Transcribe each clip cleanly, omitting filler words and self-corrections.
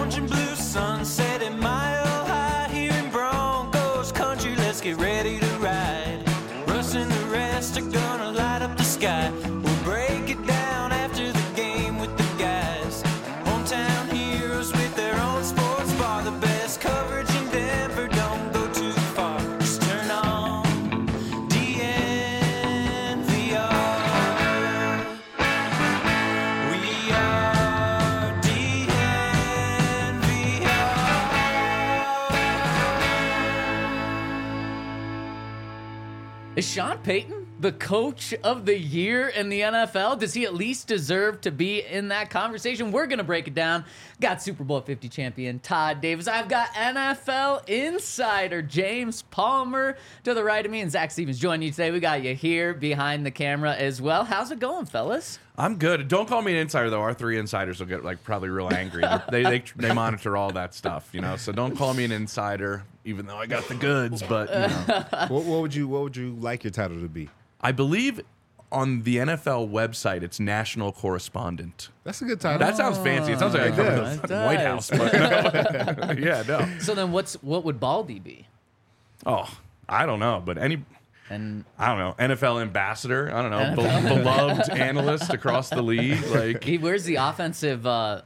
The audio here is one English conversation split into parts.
orange and blue sunset at Mile High here in Broncos country. Let's get ready to ride. Russ and the rest are gonna light up the sky. We'll break it down after the game with the guys. Hometown heroes with their own sports bar. The best coverage in Denver, don't go too far. Just turn on DNVR. We are DNVR. Is Sean Payton the coach of the year in the NFL? Does he at least deserve to be in that conversation? We're going to break it down. Got Super Bowl 50 champion Todd Davis. I've got NFL insider James Palmer to the right of me, and Zach Stevens joining you today. We got you here behind the camera as well. How's it going, fellas? I'm good. Don't call me an insider, though. Our three insiders will get probably real angry. They monitor all that stuff, So don't call me an insider, even though I got the goods. But What would you like your title to be? I believe on the NFL website it's national correspondent. That's a good title. That sounds fancy. It sounds like I cover the fucking White House. But no. Yeah, no. So then what would Baldy be? Oh, I don't know, but I don't know, NFL ambassador. I don't know, beloved analyst across the league. Like He wears the offensive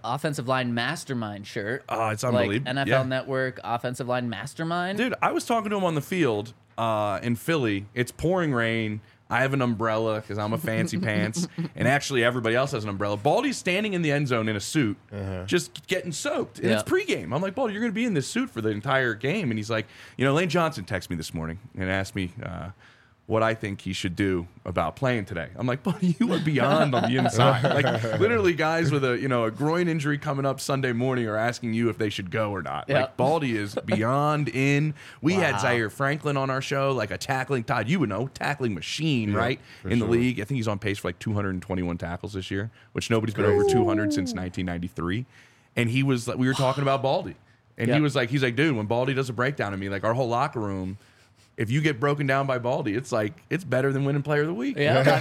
line mastermind shirt. Oh, it's Like unbelievable. NFL Yeah. Network offensive line mastermind. Dude, I was talking to him on the field in Philly. It's pouring rain. I have an umbrella because I'm a fancy pants, and actually everybody else has an umbrella. Baldy's standing in the end zone in a suit, just getting soaked. And it's pregame. I'm like, Baldy, you're going to be in this suit for the entire game. And he's like, Lane Johnson texted me this morning and asked me what I think he should do about playing today. I'm like, buddy, you are beyond on the inside. Like, literally, guys with a groin injury coming up Sunday morning are asking you if they should go or not. Yep. Like, Baldy is beyond in. We had Zaire Franklin on our show, like a tackling, Todd, you would know, tackling machine, right? In the league. I think he's on pace for like 221 tackles this year, which nobody's been over 200 since 1993. And we were talking about Baldy. And he's like, dude, when Baldy does a breakdown of me, like our whole locker room, if you get broken down by Baldy, it's better than winning player of the week.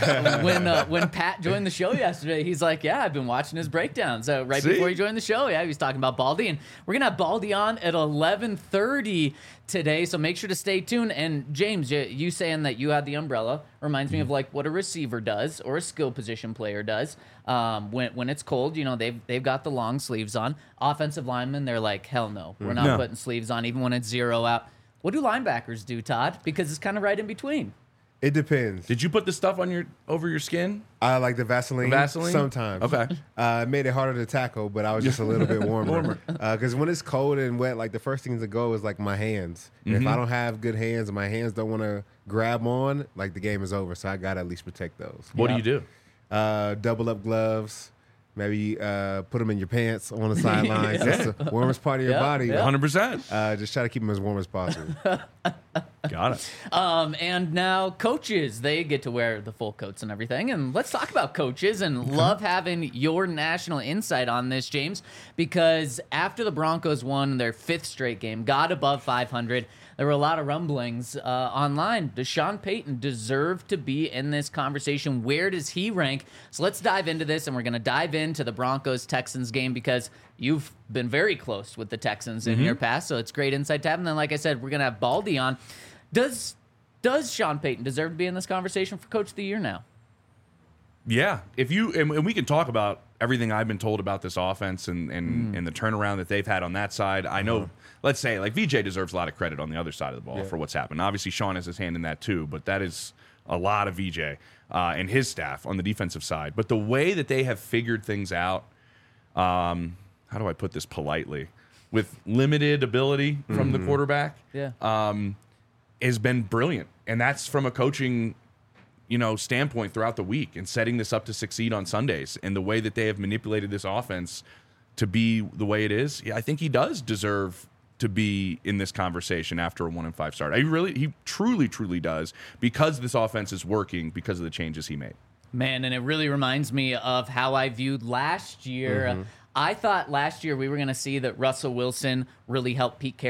Yeah. When Pat joined the show yesterday, he's like, yeah, I've been watching his breakdown. So before he joined the show, he was talking about Baldy. And we're going to have Baldy on at 11:30 today. So make sure to stay tuned. And James, you saying that you had the umbrella reminds me of like what a receiver does or a skill position player does. When it's cold, they've got the long sleeves on. Offensive linemen, they're like, hell no, we're not putting sleeves on even when it's 0 out. What do linebackers do, Todd? Because it's kind of right in between. It depends. Did you put the stuff on over your skin? I like the Vaseline. Vaseline? Sometimes. Okay. It made it harder to tackle, but I was just a little bit warmer. Because when it's cold and wet, like the first thing to go is like my hands. And if I don't have good hands and my hands don't want to grab on, like the game is over. So I got to at least protect those. What do you do? Double up gloves. Maybe put them in your pants on the sidelines. That's the warmest part of your body. 100%. Just try to keep them as warm as possible. Got it. And now coaches, they get to wear the full coats and everything. And let's talk about coaches and love having your national insight on this, James, because after the Broncos won their 5th straight game, got above 500, there were a lot of rumblings online. Does Sean Payton deserve to be in this conversation? Where does he rank? So let's dive into this, and we're going to dive into the Broncos-Texans game because you've been very close with the Texans in your past, so it's great insight to have. And then, like I said, we're going to have Baldy on. Does Sean Payton deserve to be in this conversation for Coach of the Year now? Yeah. And we can talk about everything I've been told about this offense and the turnaround that they've had on that side. I know, let's say, like VJ deserves a lot of credit on the other side of the ball for what's happened. Obviously, Sean has his hand in that too, but that is a lot of VJ and his staff on the defensive side. But the way that they have figured things out, how do I put this politely, with limited ability from the quarterback, has been brilliant. And that's from a coaching standpoint throughout the week and setting this up to succeed on Sundays, and the way that they have manipulated this offense to be the way it is. Yeah, I think he does deserve to be in this conversation after a 1-5 start. He truly does, because this offense is working because of the changes he made. Man, and it really reminds me of how I viewed last year. I thought last year we were going to see that Russell Wilson really helped Pete Carroll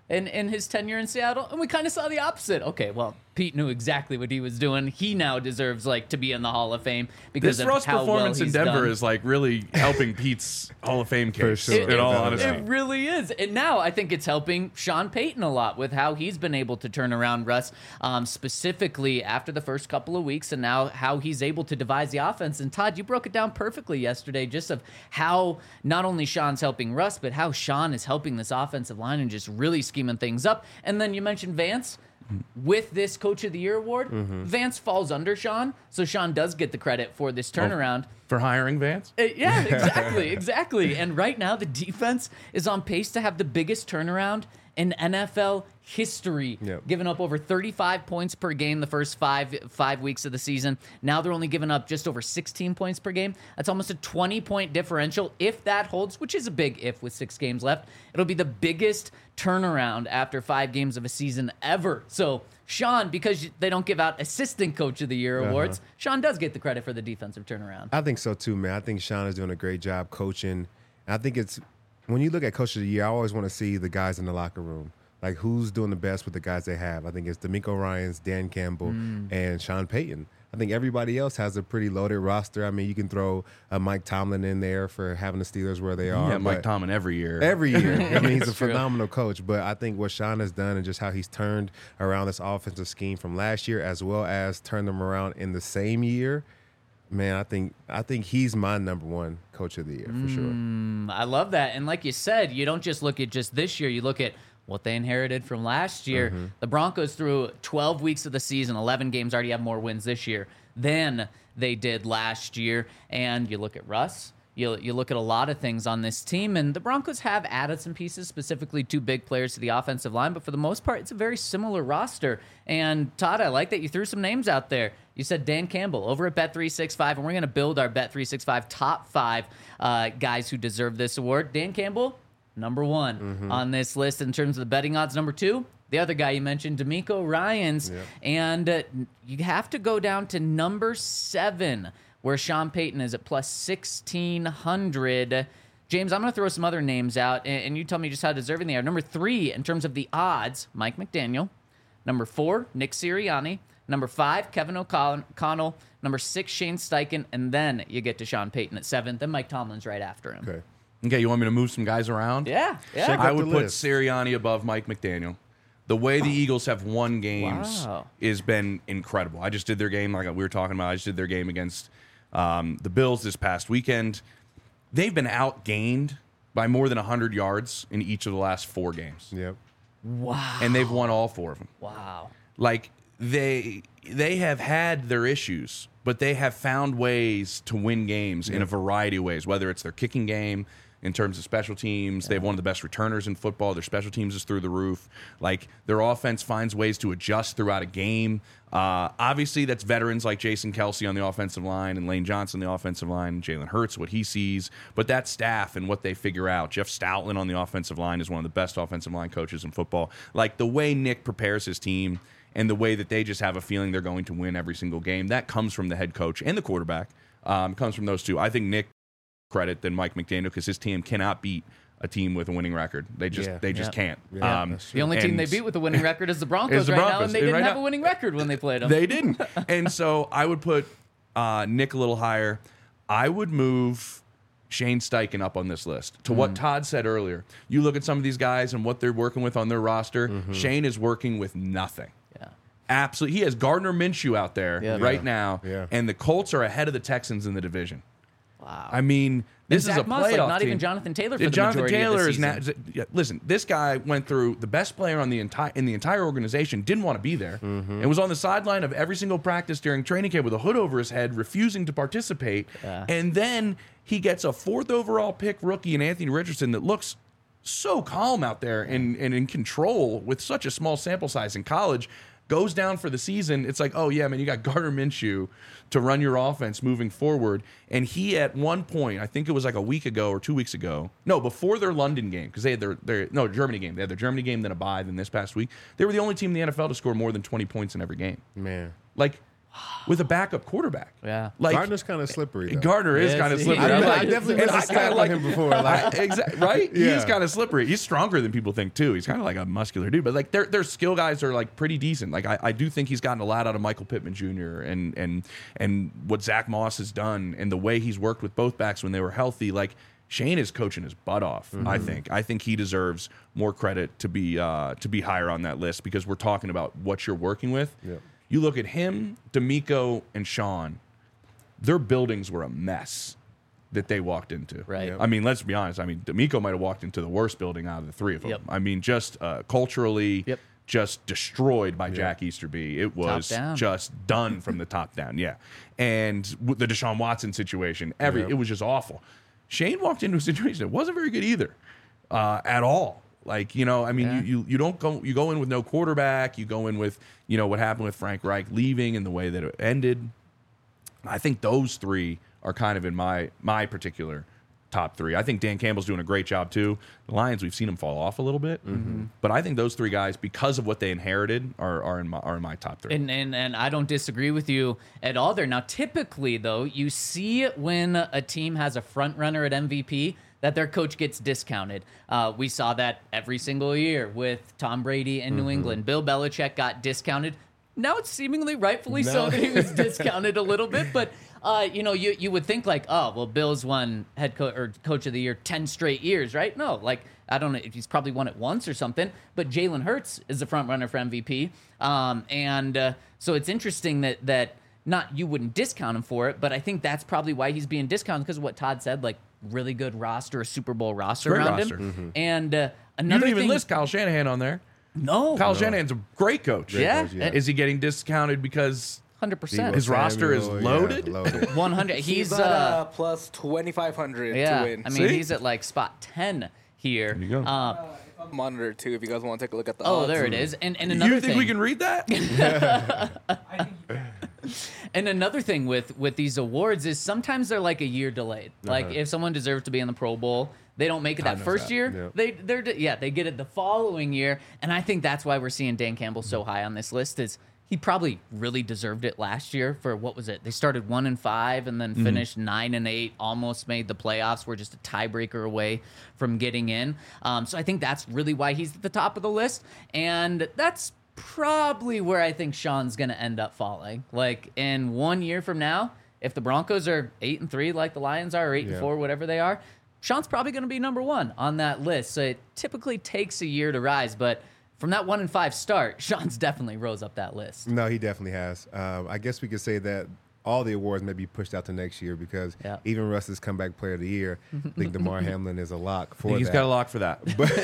in his tenure in Seattle, and we kind of saw the opposite. Okay, well, Pete knew exactly what he was doing. He now deserves to be in the Hall of Fame because This of Russ how performance well in he's Denver done. is really helping Pete's Hall of Fame case. sure. In all It- honesty, It really is. And now I think it's helping Sean Payton a lot with how he's been able to turn around Russ, specifically after the first couple of weeks, and now how he's able to devise the offense. And Todd, you broke it down perfectly yesterday, just of how not only Sean's helping Russ, but how Sean is helping this offensive line and just really scheming things up. And then you mentioned Vance. With this Coach of the Year award, Vance falls under Sean, so Sean does get the credit for this turnaround. for hiring Vance. Yeah, exactly. And right now, the defense is on pace to have the biggest turnaround in NFL history, giving up over 35 points per game the first five weeks of the season. Now they're only giving up just over 16 points per game. That's almost a 20-point differential. If that holds, which is a big if with 6 games left, it'll be the biggest turnaround after 5 games of a season ever. So Sean, because they don't give out Assistant Coach of the Year awards, Sean does get the credit for the defensive turnaround. I think so too, man. I think Sean is doing a great job coaching. I think it's when you look at Coach of the Year, I always want to see the guys in the locker room. Like who's doing the best with the guys they have. I think it's D'Amico Ryans, Dan Campbell, and Sean Payton. I think everybody else has a pretty loaded roster. I mean, you can throw Mike Tomlin in there for having the Steelers where they are. Yeah, Mike Tomlin every year. Every year. I mean, he's a true. phenomenal coach. But I think what Sean has done and just how he's turned around this offensive scheme from last year, as well as turned them around in the same year, man, I think he's my number one Coach of the Year for sure. I love that. And like you said, you don't just look at just this year, you look at what they inherited from last year. The Broncos through 12 weeks of the season, 11 games, already have more wins this year than they did last year. And you look at Russ, you look at a lot of things on this team, and the Broncos have added some pieces, specifically 2 big players to the offensive line, but for the most part, it's a very similar roster. And Todd, I like that you threw some names out there. You said Dan Campbell over at Bet365, and we're going to build our Bet365 top 5 guys who deserve this award. Dan Campbell, number 1 on this list in terms of the betting odds. Number 2, the other guy you mentioned, D'Amico Ryans. And you have to go down to number 7, where Sean Payton is at plus 1,600. James, I'm going to throw some other names out, and you tell me just how deserving they are. Number 3, in terms of the odds, Mike McDaniel. Number 4, Nick Sirianni. Number 5, Kevin O'Connell. Number 6, Shane Steichen. And then you get to Sean Payton at 7th. Then Mike Tomlin's right after him. Okay, you want me to move some guys around? Yeah. Check I out would the put list. Sirianni above Mike McDaniel. The way the Eagles have won games Wow. has been incredible. I just did their game, like we were talking about. I just did their game against the Bills this past weekend. They've been outgained by more than 100 yards in each of the last 4 games. Yep. Wow. And they've won all 4 of them. Wow. Like, they have had their issues, but they have found ways to win games in a variety of ways, whether it's their kicking game, in terms of special teams. They have one of the best returners in football. Their special teams is through the roof. Like, their offense finds ways to adjust throughout a game. Obviously, that's veterans like Jason Kelsey on the offensive line and Lane Johnson on the offensive line, Jalen Hurts, what he sees. But that staff and what they figure out. Jeff Stoutland on the offensive line is one of the best offensive line coaches in football. Like, the way Nick prepares his team and the way that they just have a feeling they're going to win every single game, that comes from the head coach and the quarterback. Comes from those two. I think Nick credit than Mike McDaniel because his team cannot beat a team with a winning record. They just can't. The only team they beat with a winning record is the Broncos Is the right now, Broncos. and they didn't Right have now- a winning record when they played them. They didn't. And so I would put Nick a little higher. I would move Shane Steichen up on this list. To what Todd said earlier, you look at some of these guys and what they're working with on their roster. Shane is working with nothing. Yeah. Absolutely. He has Gardner Minshew out there right now, Yeah. and the Colts are ahead of the Texans in the division. Wow. I mean, this is Zach a Moss, playoff like, not team. even Jonathan Taylor for the Jonathan majority Taylor of the is now. season. Listen, this guy went through the best player on the entire organization. Didn't want to be there, and was on the sideline of every single practice during training camp with a hood over his head, refusing to participate. Yeah. And then he gets a 4th overall pick rookie in Anthony Richardson that looks so calm out there and in control with such a small sample size in college. Goes down for the season. It's like, oh yeah, man, you got Gardner Minshew to run your offense moving forward. And he, at one point, I think it was like a week ago or 2 weeks ago, no, before their London game, because they had their Germany game. They had their Germany game, then a bye, then this past week. They were the only team in the NFL to score more than 20 points in every game. Man. Like, with a backup quarterback. Yeah. Like Gardner's kind of slippery. Though. Gardner is Yes, kind of he slippery. is. I definitely and missed a I stat kinda on him before. Like, right? Yeah. He's kind of slippery. He's stronger than people think too. He's kind of like a muscular dude, but like their skill guys are like pretty decent. Like I do think he's gotten a lot out of Michael Pittman Jr. and what Zach Moss has done and the way he's worked with both backs when they were healthy. Like Shane is coaching his butt off. I think he deserves more credit to be higher on that list because we're talking about what you're working with. Yeah. You look at him, D'Amico, and Sean. Their buildings were a mess that they walked into. Right. Yep. I mean, let's be honest. I mean, D'Amico might have walked into the worst building out of the three of them. Yep. I mean, just culturally, Yep. just destroyed by Jack Easterby. It was down. just done from the top down. Yeah. And the Deshaun Watson situation, it was just awful. Shane walked into a situation that wasn't very good either, at all. Like, I mean, you don't go, you go in with no quarterback. You go in with, what happened with Frank Reich leaving and the way that it ended. I think those three are kind of in my particular top three. I think Dan Campbell's doing a great job too. The Lions, we've seen them fall off a little bit, but I think those three guys, because of what they inherited, are in my top three. And I don't disagree with you at all there. Now, typically, though, you see when a team has a front runner at MVP that their coach gets discounted. We saw that every single year with Tom Brady in New England. Bill Belichick got discounted. Now it's seemingly rightfully so that he was discounted a little bit, but you would think like, oh, well, Bill's won head coach or coach of the year 10 straight years, right? No, like I don't know if he's probably won it once or something, but Jalen Hurts is the front runner for MVP, so it's interesting that not you wouldn't discount him for it, but I think that's probably why he's being discounted because of what Todd said, like really good roster, a Super Bowl roster Great around roster. him, and You another didn't even thing, list Kyle Shanahan on there. no, Kyle Shanahan's a great coach. yeah, coach, yeah. Is he getting discounted because 100%. His roster is loaded? 100. He's He's at plus 2,500 yeah. to win. I mean, See? he's at like spot 10 here. There you go. Monitor too, if you guys want to take a look at the Oh, odds. there it is. And another You think thing, we can read that? and another thing with these awards is sometimes they're like a year delayed. Like if someone deserves to be in the Pro Bowl, they don't make it that first year. Yeah. They get it the following year, and I think that's why we're seeing Dan Campbell so high on this list. Is he probably really deserved it last year for what was it? They started 1-5 and then finished 9-8, almost made the playoffs. We're just a tiebreaker away from getting in. So I think that's really why he's at the top of the list, and that's probably where I think Sean's going to end up falling. Like in 1 year from now, if the Broncos are 8-3 like the Lions are, or 8-4, whatever they are, Sean's probably going to be number one on that list. So it typically takes a year to rise, but from that 1-5 start, Sean's definitely rose up that list. No, he definitely has. I guess we could say that all the awards may be pushed out to next year because even Russ's comeback player of the year, I think DeMar Hamlin is a lock for He's that. got a lock for that.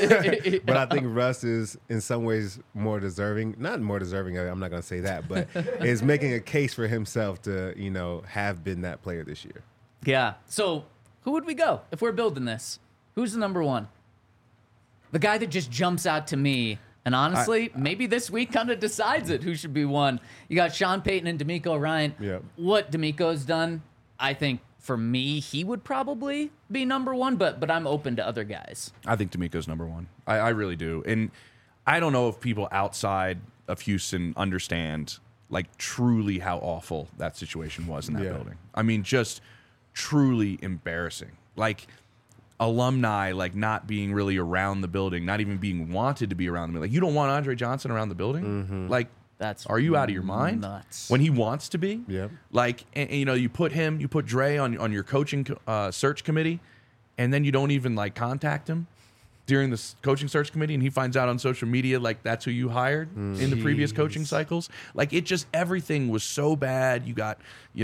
But I think Russ is in some ways more deserving. Not more deserving, I'm not going to say that, but is making a case for himself to, have been that player this year. Yeah. So who would we go if we're building this? Who's the number one? The guy that just jumps out to me. And honestly, maybe this week kind of decides it who should be one. You got Sean Payton and D'Amico Ryan. Yeah. What D'Amico's done, I think for me, he would probably be number one, but I'm open to other guys. I think D'Amico's number one. I really do. And I don't know if people outside of Houston understand, like, truly how awful that situation was in that building. I mean, just truly embarrassing. Like, alumni, like, not being really around the building, not even being wanted to be around the building. Like, you don't want Andre Johnson around the building? Like, are you out of your mind? Nuts. When he wants to be? Yeah. Like, and, you put Dre on your coaching search committee, and then you don't even, like, contact him during the coaching search committee, and he finds out on social media, like, that's who you hired in the previous coaching cycles. Like, it just, everything was so bad. You got,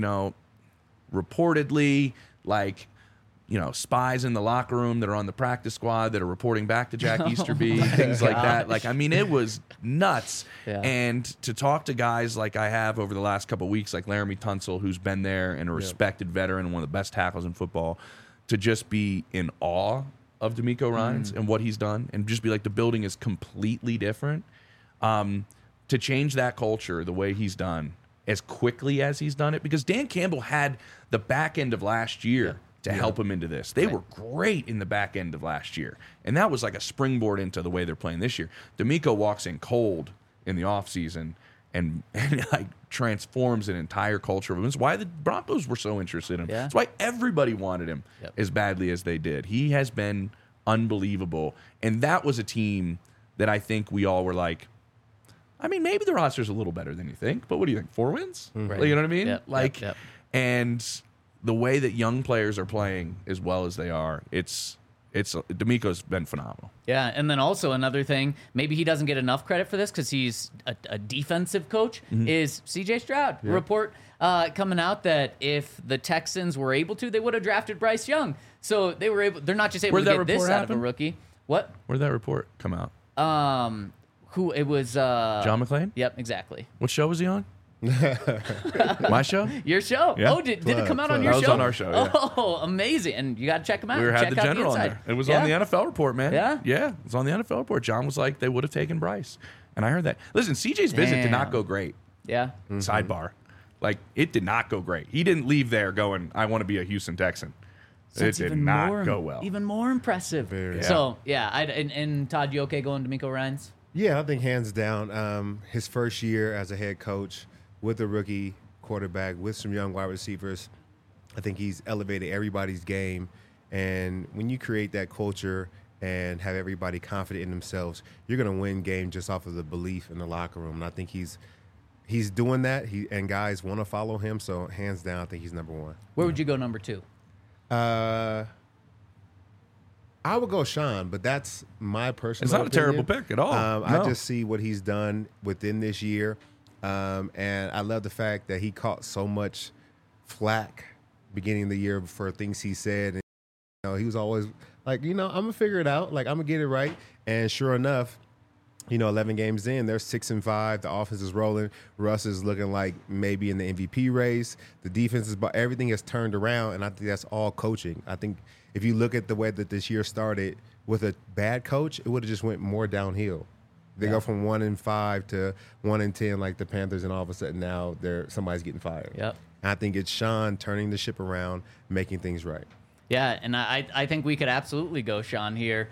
reportedly, like, spies in the locker room that are on the practice squad that are reporting back to Jack Easterby, things like that. Like, I mean, it was nuts. Yeah. And to talk to guys like I have over the last couple of weeks, like Laramie Tunsil, who's been there and a respected veteran and one of the best tackles in football, to just be in awe of D'Amico Ryans and what he's done and just be like, the building is completely different. To change that culture the way he's done as quickly as he's done it, because Dan Campbell had the back end of last year to help him into this. They were great in the back end of last year, and that was like a springboard into the way they're playing this year. D'Amico walks in cold in the offseason and like transforms an entire culture of him. It's why the Broncos were so interested in him. Yeah. It's why everybody wanted him as badly as they did. He has been unbelievable. And that was a team that I think we all were like, I mean, maybe the roster's a little better than you think, but what do you think? 4 wins? Like, you know what I mean? Yep. And the way that young players are playing as well as they are, D'Amico's been phenomenal. Yeah, and then also another thing, maybe he doesn't get enough credit for this because he's a defensive coach, is C.J. Stroud. Report coming out that if the Texans were able to, they would have drafted Bryce Young. So they were able. They're not just able Where'd to that get this report out of a happen? rookie. What? Where'd that report come out? Who it was? John McClain? Yep, exactly. What show was he on? My show? Your show? Yeah. Oh, did it come out on your That was show? on our show, yeah. Oh, amazing! And you got to check him out. We had check the out general on inside. there. It was Yeah. on the NFL report, man. Yeah? Yeah, it was on the NFL report. John was like, they would have taken Bryce. And I heard that. Listen, CJ's visit did not Damn. go great. Yeah. Sidebar. Like, it did not go great. He didn't leave there going, I want to be a Houston Texan. That's it did even not more, go well. Even more impressive. Very. So, yeah. And Todd, you okay going to D'Amico Ryans? Yeah, I think hands down. His first year as a head coach with a rookie quarterback, with some young wide receivers, I think he's elevated everybody's game. And when you create that culture and have everybody confident in themselves, you're going to win games just off of the belief in the locker room. And I think he's doing that. And guys want to follow him. So hands down, I think he's number one. Where would you go number 2? I would go Sean, but that's my personal It's not a opinion. terrible pick at all. I No. just see what he's done within this year. And I love the fact that he caught so much flack beginning of the year for things he said. And, he was always like, I'm going to figure it out. Like, I'm going to get it right. And sure enough, 11 games in, they're 6-5. The offense is rolling. Russ is looking like maybe in the MVP race. The defense is, everything has turned around, and I think that's all coaching. I think if you look at the way that this year started with a bad coach, it would have just went more downhill. They go from 1-5 to 1-10 like the Panthers, and all of a sudden now somebody's getting fired. Yep. And I think it's Sean turning the ship around, making things right. Yeah, and I think we could absolutely go Sean here.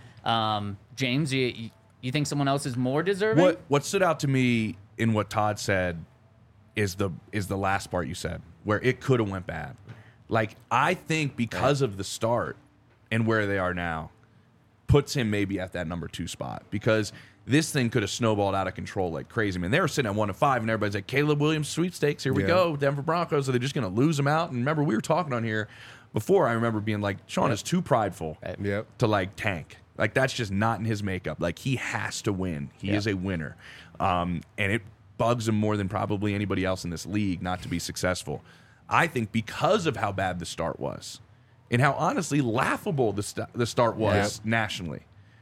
James, you think someone else is more deserving? What stood out to me in what Todd said is the last part you said, where it could have went bad. Like, I think because of the start and where they are now, puts him maybe at that number 2 spot, because this thing could have snowballed out of control like crazy. I mean, they were sitting at 1-5, and everybody's like, Caleb Williams sweepstakes, here we go, Denver Broncos. Are they just going to lose them out? And remember, we were talking on here before. I remember being like, Sean is too prideful to like tank. Like, that's just not in his makeup. Like, he has to win. He is a winner. And it bugs him more than probably anybody else in this league not to be successful. I think because of how bad the start was and how honestly laughable the start was nationally.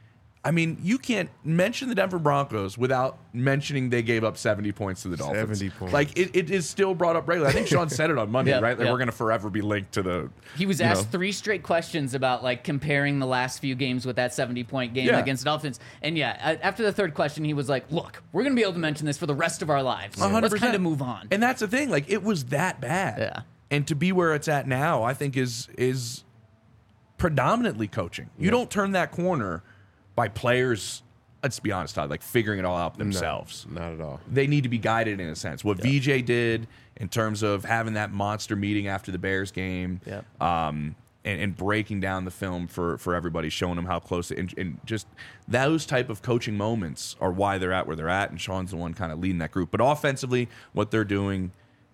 I mean, you can't mention the Denver Broncos without mentioning they gave up 70 points to the Dolphins. 70 points. Like, it is still brought up regularly. I think Sean said it on Monday, right? Like, yep. we're going to forever be linked to the... He was asked 3 straight questions about, like, comparing the last few games with that 70-point game against the Dolphins. And, after the third question, he was like, look, we're going to be able to mention this for the rest of our lives. 100%. Let's kind of move on. And that's the thing. Like, it was that bad. Yeah. And to be where it's at now, I think is predominantly coaching. You don't turn that corner by players... Let's be honest, Todd, like figuring it all out themselves. No, not at all. They need to be guided in a sense. What VJ did in terms of having that monster meeting after the Bears game, and breaking down the film for everybody, showing them how close, and just those type of coaching moments are why they're at where they're at, and Sean's the one kind of leading that group. But offensively, what they're doing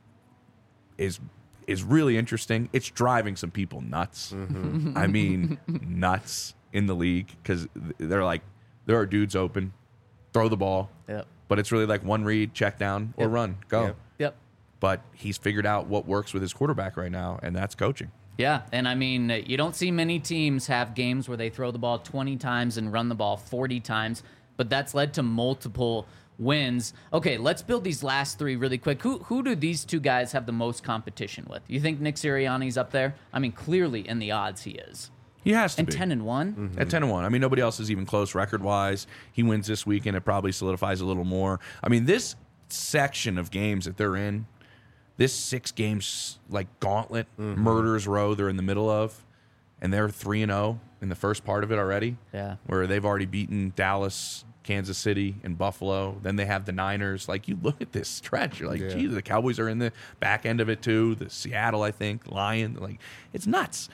is really interesting. It's driving some people nuts. I mean, nuts in the league, because they're like, there are dudes open, throw the ball. Yep. But it's really like one read, check down, or run, go. Yep. But he's figured out what works with his quarterback right now, and that's coaching. Yeah, and I mean, you don't see many teams have games where they throw the ball 20 times and run the ball 40 times, but that's led to multiple wins. Okay, let's build these last 3 really quick. Who do these 2 guys have the most competition with? You think Nick Sirianni's up there? I mean, clearly in the odds he is. He has to And be. 10-1? At 10-1. I mean, nobody else is even close record-wise. He wins this weekend. It probably solidifies a little more. I mean, this section of games that they're in, this 6 games, like, gauntlet, murderer's row they're in the middle of, and they're 3-0 in the first part of it already. Yeah. Where they've already beaten Dallas, Kansas City and Buffalo. Then they have the Niners. Like, you look at this stretch, you're like, Yeah. geez, the Cowboys are in the back end of it too. The Seattle, I think, Lions. Like, it's nuts.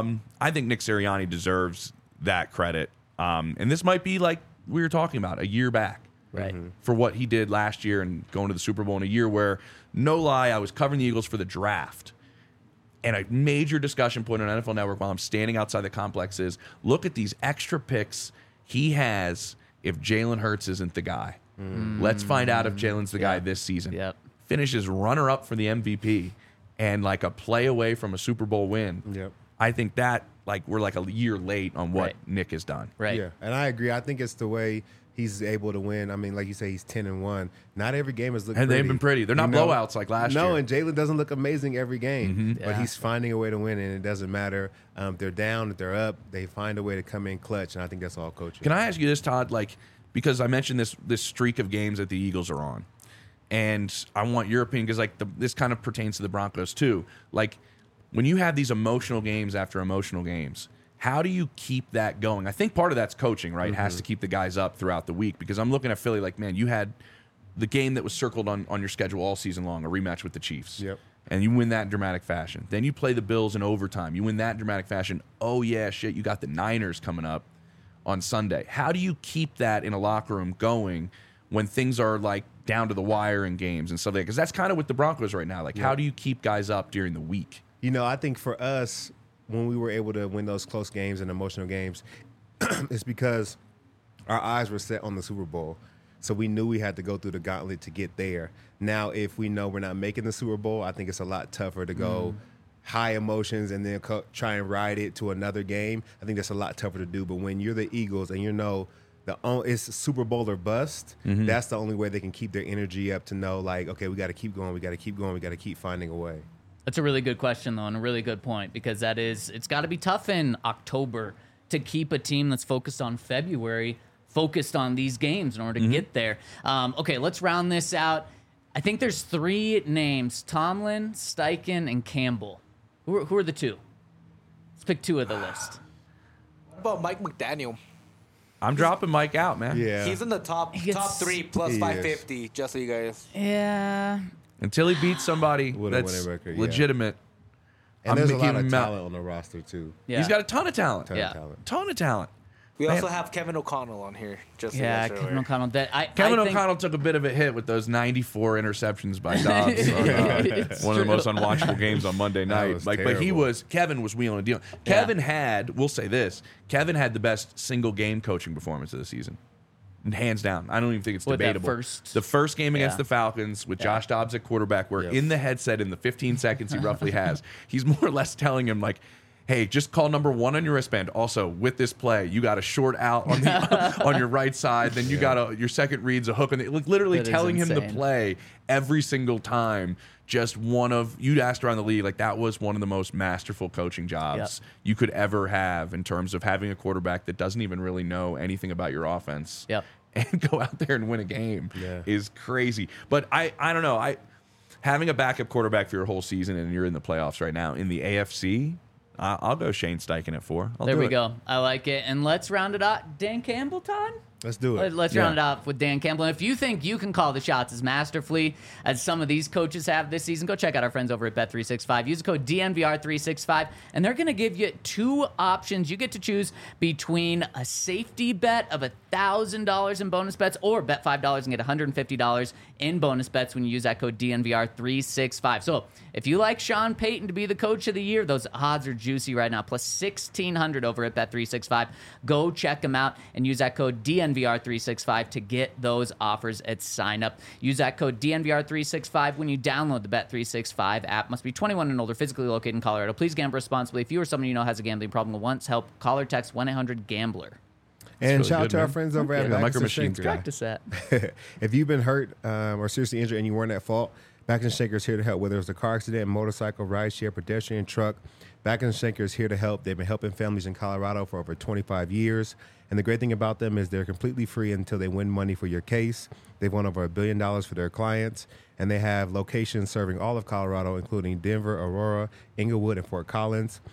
I think Nick Sirianni deserves that credit. And this might be like we were talking about a year back. Right. For what he did last year and going to the Super Bowl in a year where, no lie, I was covering the Eagles for the draft. And a major discussion point on NFL Network while I'm standing outside the complex is, look at these extra picks he has if Jalen Hurts isn't the guy. Let's find out if Jalen's the guy this season. Yep. Finishes runner-up for the MVP and like a play away from a Super Bowl win. Yep. I think that, like, we're like a year late on what Right. Nick has done. Right. Yeah, and I agree. I think it's the way he's able to win. I mean, like you say, he's 10-1. Not every game has looked And pretty. they've been pretty. They're not blowouts like last year. No, and Jalen doesn't look amazing every game, but Yeah. he's finding a way to win, and it doesn't matter if they're down, if they're up. They find a way to come in clutch, and I think that's all coaching. Can I ask you this, Todd? Like, because I mentioned this streak of games that the Eagles are on, and I want your opinion because this kind of pertains to the Broncos too. Like, when you have these emotional games after emotional games, how do you keep that going? I think part of that's coaching, right? Has to keep the guys up throughout the week, because I'm looking at Philly like, man, you had the game that was circled on your schedule all season long, a rematch with the Chiefs. Yep. And you win that in dramatic fashion. Then you play the Bills in overtime. You win that in dramatic fashion. Oh, yeah, shit, you got the Niners coming up on Sunday. How do you keep that in a locker room going when things are like down to the wire in games and stuff like that? Because that's kind of with the Broncos right now. Like, how do you keep guys up during the week? You know, I think for us, when we were able to win those close games and emotional games, it's because our eyes were set on the Super Bowl. So we knew we had to go through the gauntlet to get there. Now, if we know we're not making the Super Bowl, I think it's a lot tougher to go high emotions and then try and ride it to another game. I think that's a lot tougher to do. But when you're the Eagles and you know it's Super Bowl or bust, that's the only way they can keep their energy up to know, like, okay, we got to keep going, we got to keep going, we got to keep finding a way. That's a really good question, though, and a really good point, because it's got to be tough in October to keep a team that's focused on February focused on these games in order to get there. Okay, let's round this out. I think there's 3 names: Tomlin, Steichen, and Campbell. Who are the 2? Let's pick 2 of the list. What about Mike McDaniel? I'm dropping Mike out, man. Yeah. He's in the top He gets- 3 plus He is. 550, just so you guys. Yeah. Until he beats somebody With a that's winning record, yeah. legitimate. And I'm there's a making lot of him out. talent on the roster, too. Yeah. He's got a ton of talent. Ton Yeah. of talent. Ton of talent. We Man. also have Kevin O'Connell on here, just so Yeah, you guys are Kevin aware. O'Connell. Kevin I think- O'Connell took a bit of a hit with those 94 interceptions by Dobbs on It's one of the true. most unwatchable games on Monday night. was But terrible. Kevin was wheeling and dealing. Kevin had, we'll say this, Kevin had the best single game coaching performance of the season. And hands down. I don't even think it's What, that debatable. first- The first game against Yeah. the Falcons with Josh Dobbs at quarterback, where Yes. in the headset in the 15 seconds he roughly has, he's more or less telling him, like, hey, just call number 1 on your wristband. Also, with this play, you got a short out on the on your right side. Then you got your second read's a hook, and like literally That is telling him to insane. play every single time. Just one of you'd asked around the league, like that was one of the most masterful coaching jobs you could ever have in terms of having a quarterback that doesn't even really know anything about your offense. Yep. And go out there and win a game Yeah. is crazy. But I don't know. Having a backup quarterback for your whole season and you're in the playoffs right now in the AFC. I'll go Shane Steichen at 4. There we go. I like it. And let's round it out. Dan Campbell, Todd? Let's do it. Let's Yeah. round it off with Dan Campbell. And if you think you can call the shots as masterfully as some of these coaches have this season, go check out our friends over at Bet365. Use the code DNVR365, and they're going to give you 2 options. You get to choose between a safety bet of $1,000 in bonus bets, or bet $5 and get $150 in bonus bets when you use that code DNVR365. So if you like Sean Payton to be the coach of the year, those odds are juicy right now, plus 1,600 over at Bet365. Go check them out and use that code DNVR365 to get those offers at sign up. Use that code DNVR365 when you download the Bet365 app. Must be 21 and older, physically located in Colorado. Please gamble responsibly. If you or someone you know has a gambling problem or wants help, call or text 1-800-GAMBLER. And really shout out good, to our man. friends over at the Back Micro and Machines Shaker. guy. Practice that. If you've been hurt or seriously injured and you weren't at fault, Back and Shaker is here to help. Whether it's a car accident, motorcycle, rideshare, pedestrian, truck, Back and Shaker is here to help. They've been helping families in Colorado for over 25 years. And the great thing about them is they're completely free until they win money for your case. They've won over $1 billion for their clients. And they have locations serving all of Colorado, including Denver, Aurora, Inglewood, and Fort Collins.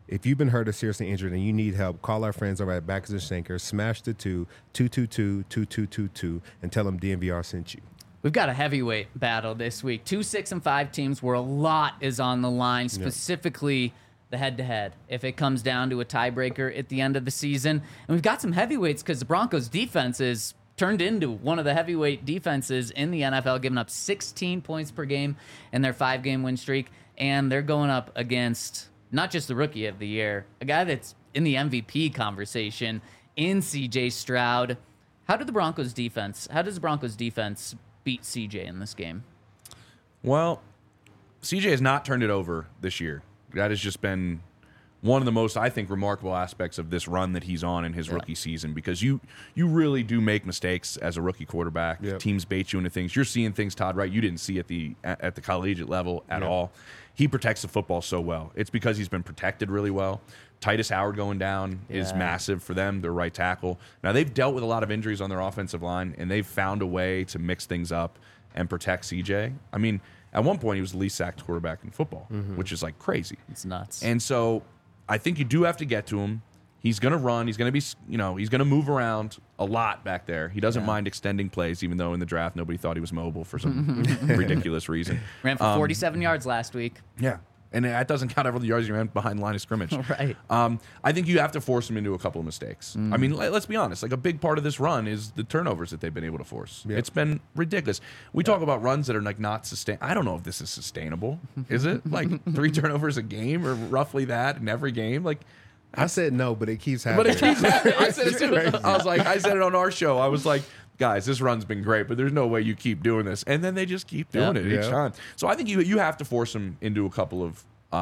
If you've been hurt or seriously injured and you need help, call our friends over at Baxter Schenker, smash the 222-2222, and tell them DNVR sent you. We've got a heavyweight battle this week. 2, 6, and 5 teams where a lot is on the line, specifically the head-to-head. If it comes down to a tiebreaker at the end of the season. And we've got some heavyweights because the Broncos' defense is turned into one of the heavyweight defenses in the NFL, giving up 16 points per game in their 5-game win streak. And they're going up against not just the Rookie of the Year, a guy that's in the MVP conversation in C.J. Stroud. How does the Broncos defense beat CJ in this game? Well, CJ has not turned it over this year. That has just been one of the most, I think, remarkable aspects of this run that he's on in his rookie season, because you really do make mistakes as a rookie quarterback. Yep. Teams bait you into things. You're seeing things, Todd, right? You didn't see at the collegiate level at all. He protects the football so well. It's because he's been protected really well. Titus Howard going down is massive for them, their right tackle. Now, they've dealt with a lot of injuries on their offensive line, and they've found a way to mix things up and protect CJ. I mean, at one point, he was the least sacked quarterback in football, which is like crazy. It's nuts. And so I think you do have to get to him. He's going to run. He's going to be, he's going to move around a lot back there. He doesn't mind extending plays, even though in the draft nobody thought he was mobile for some ridiculous reason. Ran for 47 yards last week. Yeah. And that doesn't count every yards you ran behind the line of scrimmage. Right. I think you have to force him into a couple of mistakes. I mean, let's be honest. Like, a big part of this run is the turnovers that they've been able to force. Yep. It's been ridiculous. We talk about runs that are like not sustain. I don't know if this is sustainable. Is it like 3 turnovers a game or roughly that in every game? Like, I said no, but it keeps happening. But it keeps happening. I said it too. I said it on our show. I was like, guys, this run's been great, but there's no way you keep doing this. And then they just keep doing it each time. So I think you have to force them into a couple of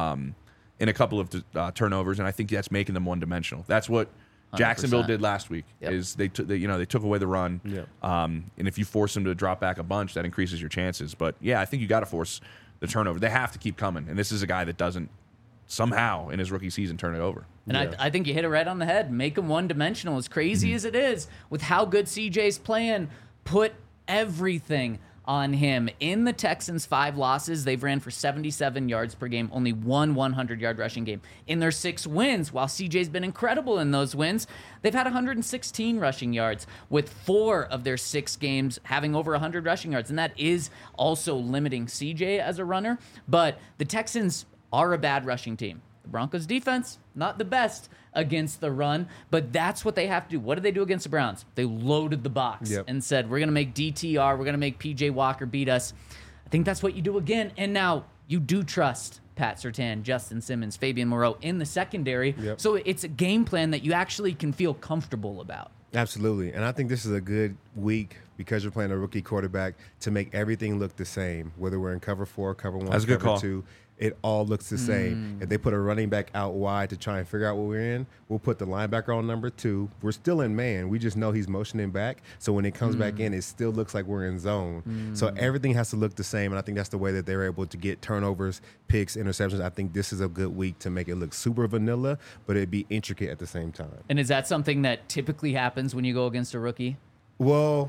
turnovers, and I think that's making them one-dimensional. That's what Jacksonville 100%. Did last week. Is they took away the run. And if you force them to drop back a bunch, that increases your chances. But yeah, I think you got to force the turnover. They have to keep coming, and this is a guy that doesn't somehow in his rookie season turn it over. And I think you hit it right on the head. Make him one-dimensional. As crazy as it is, with how good CJ's playing, put everything on him. In the Texans' 5 losses, they've ran for 77 yards per game, only one 100-yard rushing game. In their 6 wins, while CJ's been incredible in those wins, they've had 116 rushing yards, with 4 of their 6 games having over 100 rushing yards. And that is also limiting CJ as a runner. But the Texans are a bad rushing team. The Broncos defense, not the best against the run, but that's what they have to do. What did they do against the Browns? They loaded the box and said, we're going to make DTR, we're going to make PJ Walker beat us. I think that's what you do again. And now you do trust Pat Surtain, Justin Simmons, Fabian Moreau in the secondary. So it's a game plan that you actually can feel comfortable about. Absolutely. And I think this is a good week, because you're playing a rookie quarterback, to make everything look the same, whether we're in cover 4, cover 1, cover 2. It all looks the same. If they put a running back out wide to try and figure out what we're in, we'll put the linebacker on number 2. We're still in man. We just know he's motioning back. So when it comes back in, it still looks like we're in zone. So everything has to look the same, and I think that's the way that they're able to get turnovers, picks, interceptions. I think this is a good week to make it look super vanilla, but it'd be intricate at the same time. And is that something that typically happens when you go against a rookie? Well,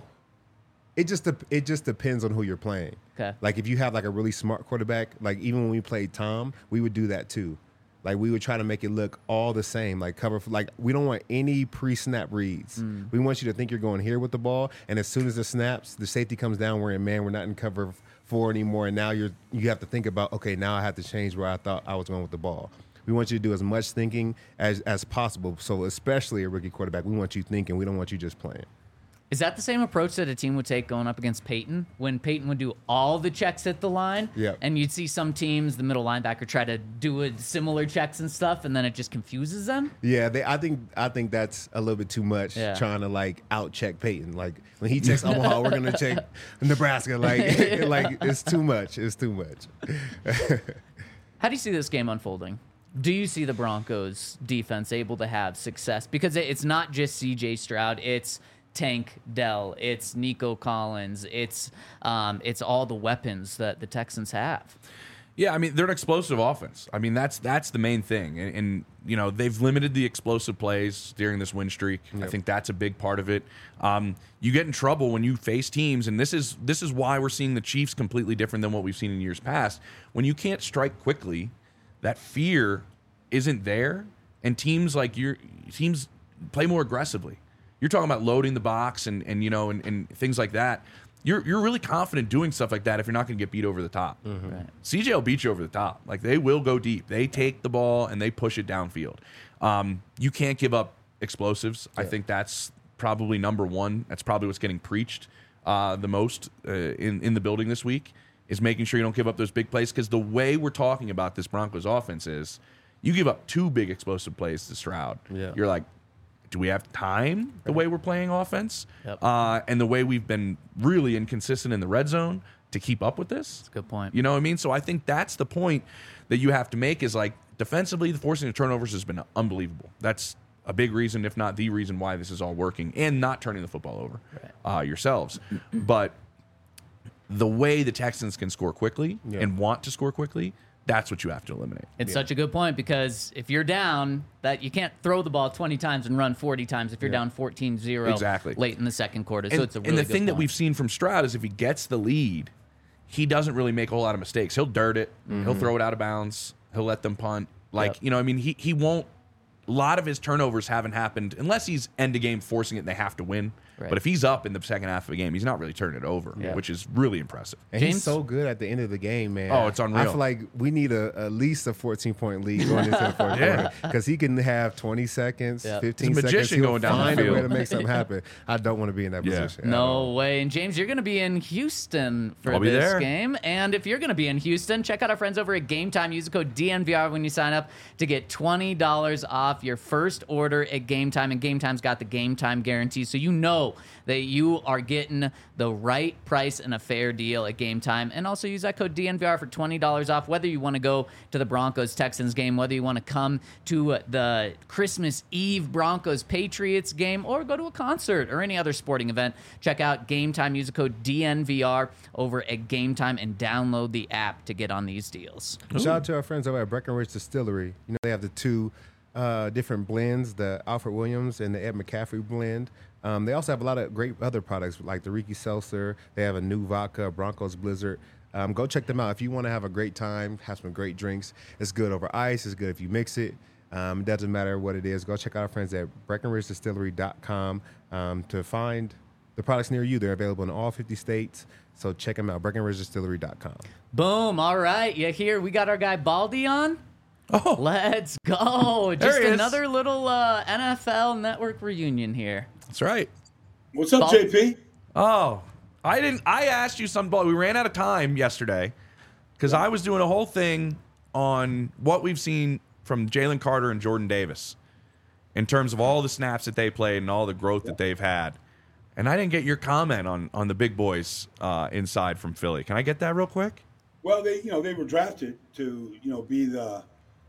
it just depends on who you're playing. Okay. Like, if you have like a really smart quarterback, like even when we played Tom, we would do that too. Like, we would try to make it look all the same. Like, we don't want any pre-snap reads. We want you to think you're going here with the ball, and as soon as the snaps, the safety comes down, we're in man, we're not in cover 4 anymore, and now you have to think about, okay, now I have to change where I thought I was going with the ball. We want you to do as much thinking as possible. So especially a rookie quarterback, we want you thinking. We don't want you just playing. Is that the same approach that a team would take going up against Peyton? When Peyton would do all the checks at the line, and you'd see some teams, the middle linebacker, try to do similar checks and stuff, and then it just confuses them? Yeah, I think that's a little bit too much, trying to like out-check Peyton. Like, when he checks Omaha, we're going to check Nebraska. Like it's too much. It's too much. How do you see this game unfolding? Do you see the Broncos defense able to have success? Because it's not just CJ Stroud, it's Tank Dell, it's Nico Collins, it's all the weapons that the Texans have. Yeah, I mean, they're an explosive offense. I mean, that's the main thing. And they've limited the explosive plays during this win streak. I think that's a big part of it. You get in trouble when you face teams, and this is why we're seeing the Chiefs completely different than what we've seen in years past. When you can't strike quickly, that fear isn't there, and teams play more aggressively. You're talking about loading the box and things like that. You're really confident doing stuff like that if you're not going to get beat over the top. Mm-hmm. Right. CJ will beat you over the top. Like, they will go deep. They take the ball and they push it downfield. You can't give up explosives. Yeah. I think that's probably number one. That's probably what's getting preached the most in the building this week, is making sure you don't give up those big plays. Because the way we're talking about this Broncos offense is, you give up 2 big explosive plays to Stroud. Yeah. You're like, do we have time the way we're playing offense? Yep. And the way we've been really inconsistent in the red zone to keep up with this? That's a good point. You know what I mean? So I think that's the point that you have to make, is like, defensively, the forcing of turnovers has been unbelievable. That's a big reason, if not the reason, why this is all working, and not turning the football over yourselves. But the way the Texans can score quickly and want to score quickly, that's what you have to eliminate. It's such a good point, because if you're down, that you can't throw the ball 20 times and run 40 times if you're down 14-0 late in the second quarter. So it's a really and the good thing point. that we've seen from Stroud is, if he gets the lead, he doesn't really make a whole lot of mistakes. He'll dirt it. He'll throw it out of bounds. He'll let them punt. Like, you know, I mean, he won't. A lot of his turnovers haven't happened unless he's end of game forcing it and they have to win. Right. But if he's up in the second half of a game, he's not really turning it over, which is really impressive. And he's so good at the end of the game, man. Oh, it's unreal. I feel like we need at least a 14-point lead going into the fourth quarter, because he can have 20 seconds, 15 He's a magician seconds. He'll going down the find a field. way to make something happen. I don't want to be in that position. No way. And James, you're going to be in Houston for I'll be this there. game. And if you're going to be in Houston, check out our friends over at Game Time. Use the code DNVR when you sign up to get $20 off your first order at Game Time. And Game Time's got the Game Time guarantee, so you know that you are getting the right price and a fair deal at Game Time. And also use that code DNVR for $20 off, whether you want to go to the Broncos-Texans game, whether you want to come to the Christmas Eve Broncos-Patriots game, or go to a concert or any other sporting event. Check out Game Time. Use the code DNVR over at Game Time and download the app to get on these deals. Shout out to our friends over at Breckenridge Distillery. You know, they have the 2 different blends, the Alfred Williams and the Ed McCaffrey blend. They also have a lot of great other products, like the Ricky Seltzer. They have a new vodka, Broncos Blizzard. Go check them out. If you want to have a great time, have some great drinks, it's good over ice. It's good if you mix it. It doesn't matter what it is. Go check out our friends at BreckenridgeDistillery.com to find the products near you. They're available in all 50 states. So check them out, BreckenridgeDistillery.com. Boom. All right. You hear we got our guy Baldy on? Oh, Let's go. Just he is. another little NFL Network reunion here. that's right. What's up, JP? Oh, I asked you something. We ran out of time yesterday because I was doing a whole thing on what we've seen from Jalen Carter and Jordan Davis in terms of all the snaps that they played and all the growth that they've had. And I didn't get your comment on the big boys inside from Philly. Can I get that real quick? Well, they were drafted to, be the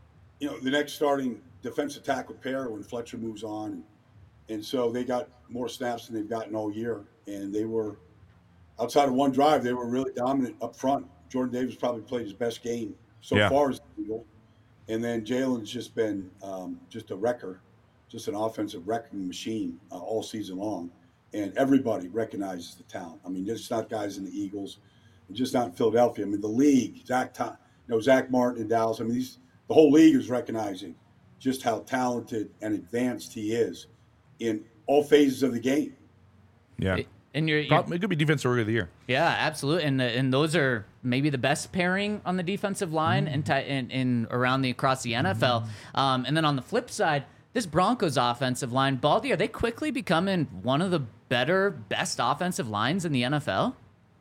next starting defensive tackle pair when Fletcher moves on. And so they got more snaps than they've gotten all year. And they were, outside of one drive, they were really dominant up front. Jordan Davis probably played his best game so far as an Eagle. And then Jalen's just been just a wrecker, just an offensive wrecking machine all season long. And everybody recognizes the talent. I mean, it's not guys in the Eagles, just not in Philadelphia. I mean, the league, Zach Martin in Dallas. I mean, the whole league is recognizing just how talented and advanced he is in all phases of the game. Yeah. And it could be defensive rookie of the year. Yeah, absolutely. And those are maybe the best pairing on the defensive line and around across the NFL. And then on the flip side, this Broncos offensive line, Baldy, are they quickly becoming one of the best offensive lines in the NFL?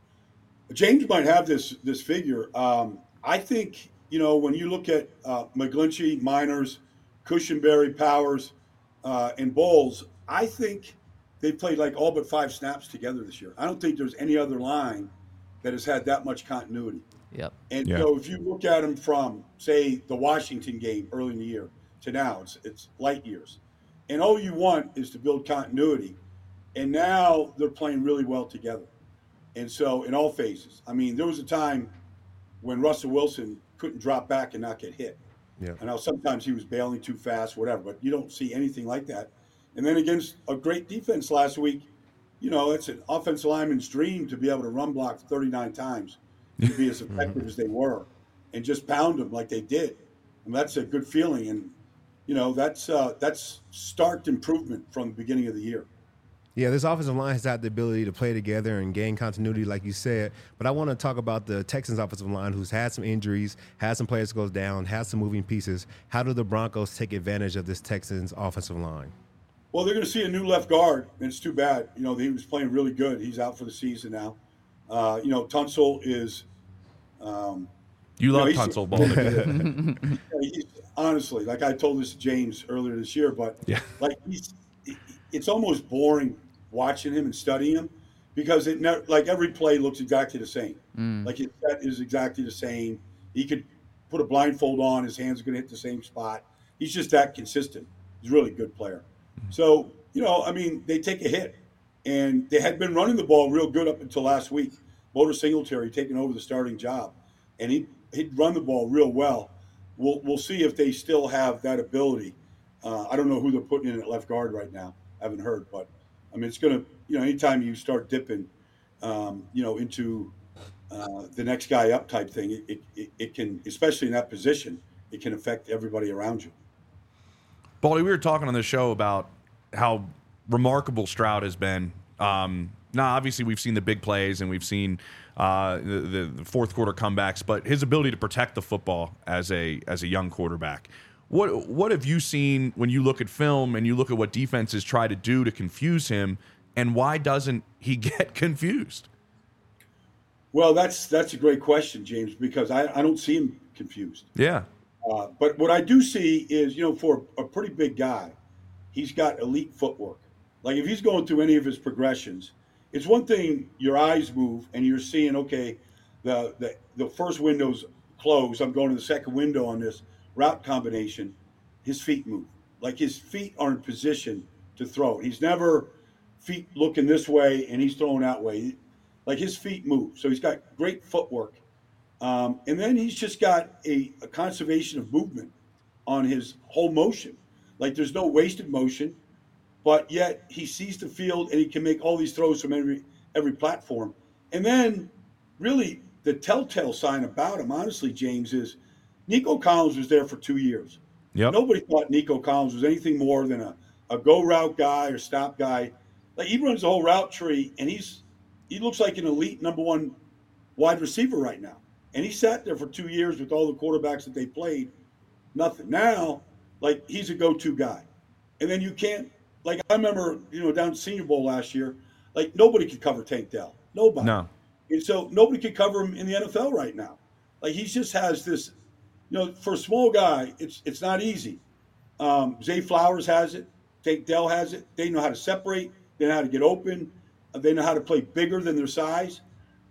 James might have this figure. I think, when you look at McGlinchey, Miners, Cushenberry, Powers, and Bowles, I think they played like all but 5 snaps together this year. I don't think there's any other line that has had that much continuity. Yep. And so if you look at them from, say, the Washington game early in the year to now, it's light years. And all you want is to build continuity. And now they're playing really well together. And so in all phases, I mean, there was a time when Russell Wilson couldn't drop back and not get hit. Yeah. I know sometimes he was bailing too fast, whatever, but you don't see anything like that. And then against a great defense last week, it's an offensive lineman's dream to be able to run block 39 times and be as effective as they were and just pound them like they did. And that's a good feeling. And that's stark improvement from the beginning of the year. Yeah, this offensive line has had the ability to play together and gain continuity, like you said. But I want to talk about the Texans offensive line, who's had some injuries, had some players go down, had some moving pieces. How do the Broncos take advantage of this Texans offensive line? Well, they're going to see a new left guard, and it's too bad. He was playing really good. He's out for the season now. Tunsil is. You love Tunsil, Baldy. He's honestly, like I told this to James earlier this year, but it's almost boring watching him and studying him because every play looks exactly the same. Like his set is exactly the same. He could put a blindfold on, his hands are going to hit the same spot. He's just that consistent. He's a really good player. So, they take a hit. And they had been running the ball real good up until last week. Motor Singletary taking over the starting job. And he'd run the ball real well. We'll see if they still have that ability. I don't know who they're putting in at left guard right now. I haven't heard. But, it's going to, anytime you start dipping, into the next guy up type thing, it can, especially in that position, it can affect everybody around you. Baldy, we were talking on this show about how remarkable Stroud has been. Now, obviously, we've seen the big plays and we've seen the fourth quarter comebacks, but his ability to protect the football as a young quarterback. What have you seen when you look at film and you look at what defenses try to do to confuse him, and why doesn't he get confused? Well, that's a great question, James, because I don't see him confused. Yeah. But what I do see is, for a pretty big guy, he's got elite footwork. Like if he's going through any of his progressions, it's one thing your eyes move and you're seeing, okay, the first window's closed. I'm going to the second window on this route combination. His feet move. Like his feet are in position to throw. He's never feet looking this way and he's throwing that way. Like his feet move. So he's got great footwork. And then he's just got a conservation of movement on his whole motion. Like there's no wasted motion, but yet he sees the field and he can make all these throws from every platform. And then really the telltale sign about him, honestly, James, is Nico Collins was there for 2 years. Yep. Nobody thought Nico Collins was anything more than a go route guy or stop guy. Like he runs the whole route tree and he looks like an elite number one wide receiver right now. And he sat there for 2 years with all the quarterbacks that they played. Nothing. Now, like, he's a go-to guy. And then you can't, like, I remember, down at Senior Bowl last year, like, nobody could cover Tank Dell. Nobody. No. And so nobody could cover him in the NFL right now. Like, he just has this, for a small guy, it's not easy. Zay Flowers has it. Tank Dell has it. They know how to separate. They know how to get open. They know how to play bigger than their size.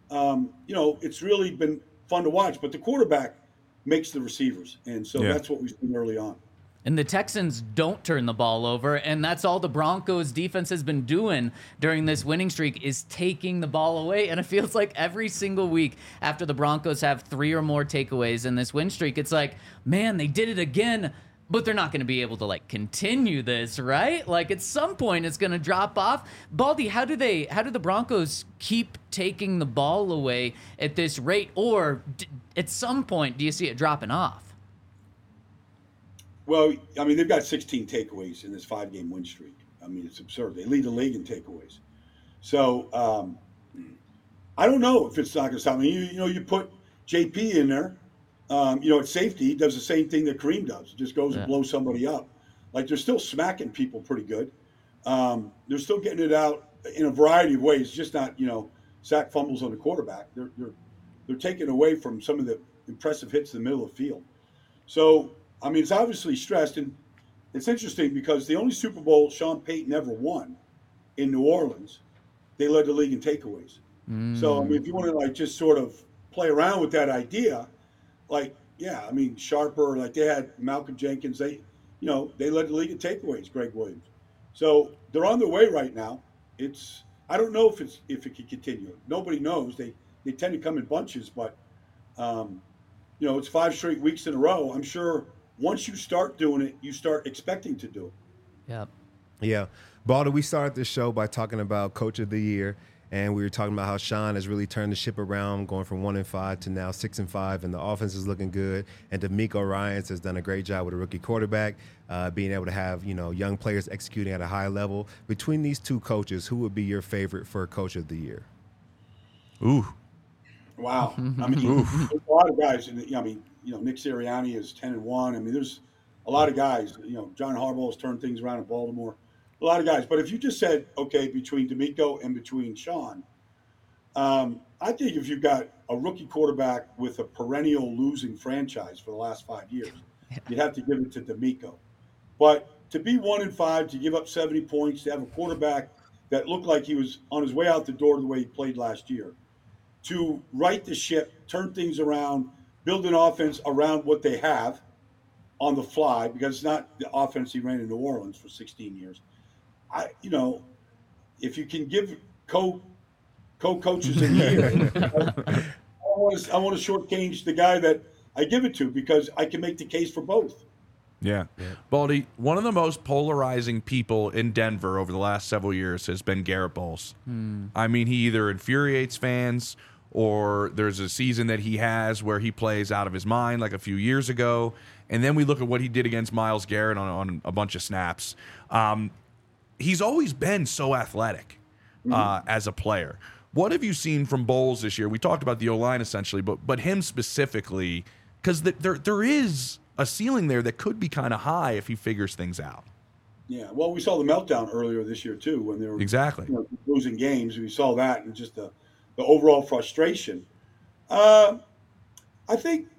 It's really been fun to watch, but the quarterback makes the receivers, and so that's what we've seen early on. And the Texans don't turn the ball over, and that's all the Broncos defense has been doing during this winning streak is taking the ball away. And it feels like every single week after the Broncos have 3 or more takeaways in this win streak, it's like, man, they did it again. But they're not going to be able to continue this, right? Like at some point it's going to drop off. Baldy, how do the Broncos keep taking the ball away at this rate, or at some point do you see it dropping off? Well, they've got 16 takeaways in this 5-game win streak. It's absurd. They lead the league in takeaways. So I don't know if it's not going to stop. You put JP in there. At safety, he does the same thing that Kareem does. Just goes and blows somebody up. Like, they're still smacking people pretty good. They're still getting it out in a variety of ways, just not, sack fumbles on the quarterback. They're taking away from some of the impressive hits in the middle of the field. So, it's obviously stressed. And it's interesting because the only Super Bowl Sean Payton ever won in New Orleans, they led the league in takeaways. So, if you want to, just sort of play around with that idea, Sharper, they had Malcolm Jenkins. They led the league in takeaways, Greg Williams. So they're on their way right now. I don't know if it can continue. Nobody knows. They tend to come in bunches, but it's 5 straight weeks in a row. I'm sure once you start doing it, you start expecting to do it. Yep. Yeah. Baldy, we started this show by talking about Coach of the Year. And we were talking about how Sean has really turned the ship around, going from 1-5 to now 6-5, and the offense is looking good. And D'Amico Ryans has done a great job with a rookie quarterback, being able to have young players executing at a high level. Between these two coaches, who would be your favorite for Coach of the Year? Ooh. Wow. I mean, there's a lot of guys. Nick Sirianni is 10-1. I mean, there's a lot of guys. John Harbaugh has turned things around in Baltimore. A lot of guys. But if you just said, okay, between D'Amico and between Sean, I think if you've got a rookie quarterback with a perennial losing franchise for the last 5 years, you'd have to give it to D'Amico. But to be 1-5, to give up 70 points, to have a quarterback that looked like he was on his way out the door the way he played last year, to right the ship, turn things around, build an offense around what they have on the fly, because it's not the offense he ran in New Orleans for 16 years. If you can give co-coaches a year, I want to shortchange the guy that I give it to, because I can make the case for both. Yeah. Baldy, one of the most polarizing people in Denver over the last several years has been Garrett Bowles. I mean, he either infuriates fans, or there's a season that he has where he plays out of his mind, like a few years ago. And then we look at what he did against Myles Garrett on a bunch of snaps. He's always been so athletic as a player. What have you seen from Bowles this year? We talked about the O-line essentially, but him specifically, because there is a ceiling there that could be kind of high if he figures things out. Yeah, well, we saw the meltdown earlier this year too, when they were losing games. We saw that, and just the overall frustration. I think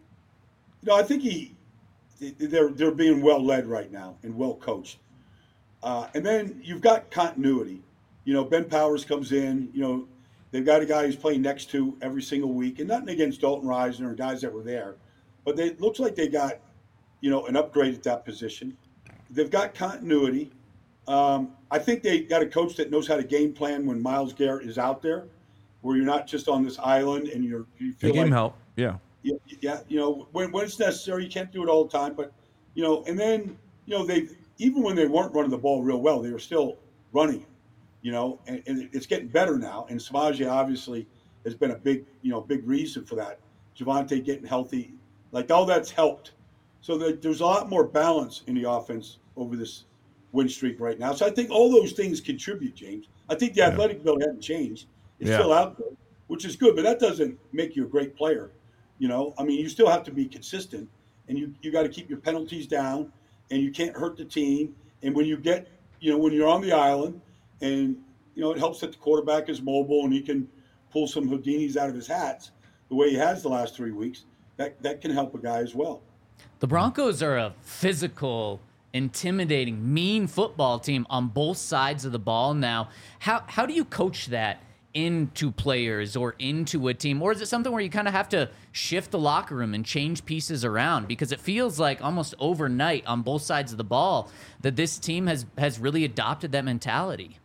they're being well led right now and well coached. And then you've got continuity. Ben Powers comes in. They've got a guy who's playing next to every single week, and nothing against Dalton Risner or guys that were there, but it looks like they got an upgrade at that position. They've got continuity. I think they got a coach that knows how to game plan when Myles Garrett is out there, where you're not just on this island and you feel they give him help. Yeah. Yeah. When it's necessary, you can't do it all the time, but and then they, even when they weren't running the ball real well, they were still running it, and it's getting better now. And Samaje obviously has been a big reason for that. Javonte getting healthy, like all that's helped. So there's a lot more balance in the offense over this win streak right now. So I think all those things contribute, James. I think the athletic ability hasn't changed. It's still out there, which is good, but that doesn't make you a great player. I mean, you still have to be consistent, and you got to keep your penalties down, and you can't hurt the team. And when you get, when you're on the island, and, it helps that the quarterback is mobile and he can pull some Houdinis out of his hats the way he has the last 3 weeks, that can help a guy as well. The Broncos are a physical, intimidating, mean football team on both sides of the ball now. How do you coach that into players or into a team? Or is it something where you kind of have to shift the locker room and change pieces around? Because it feels like almost overnight on both sides of the ball that this team has really adopted that mentality.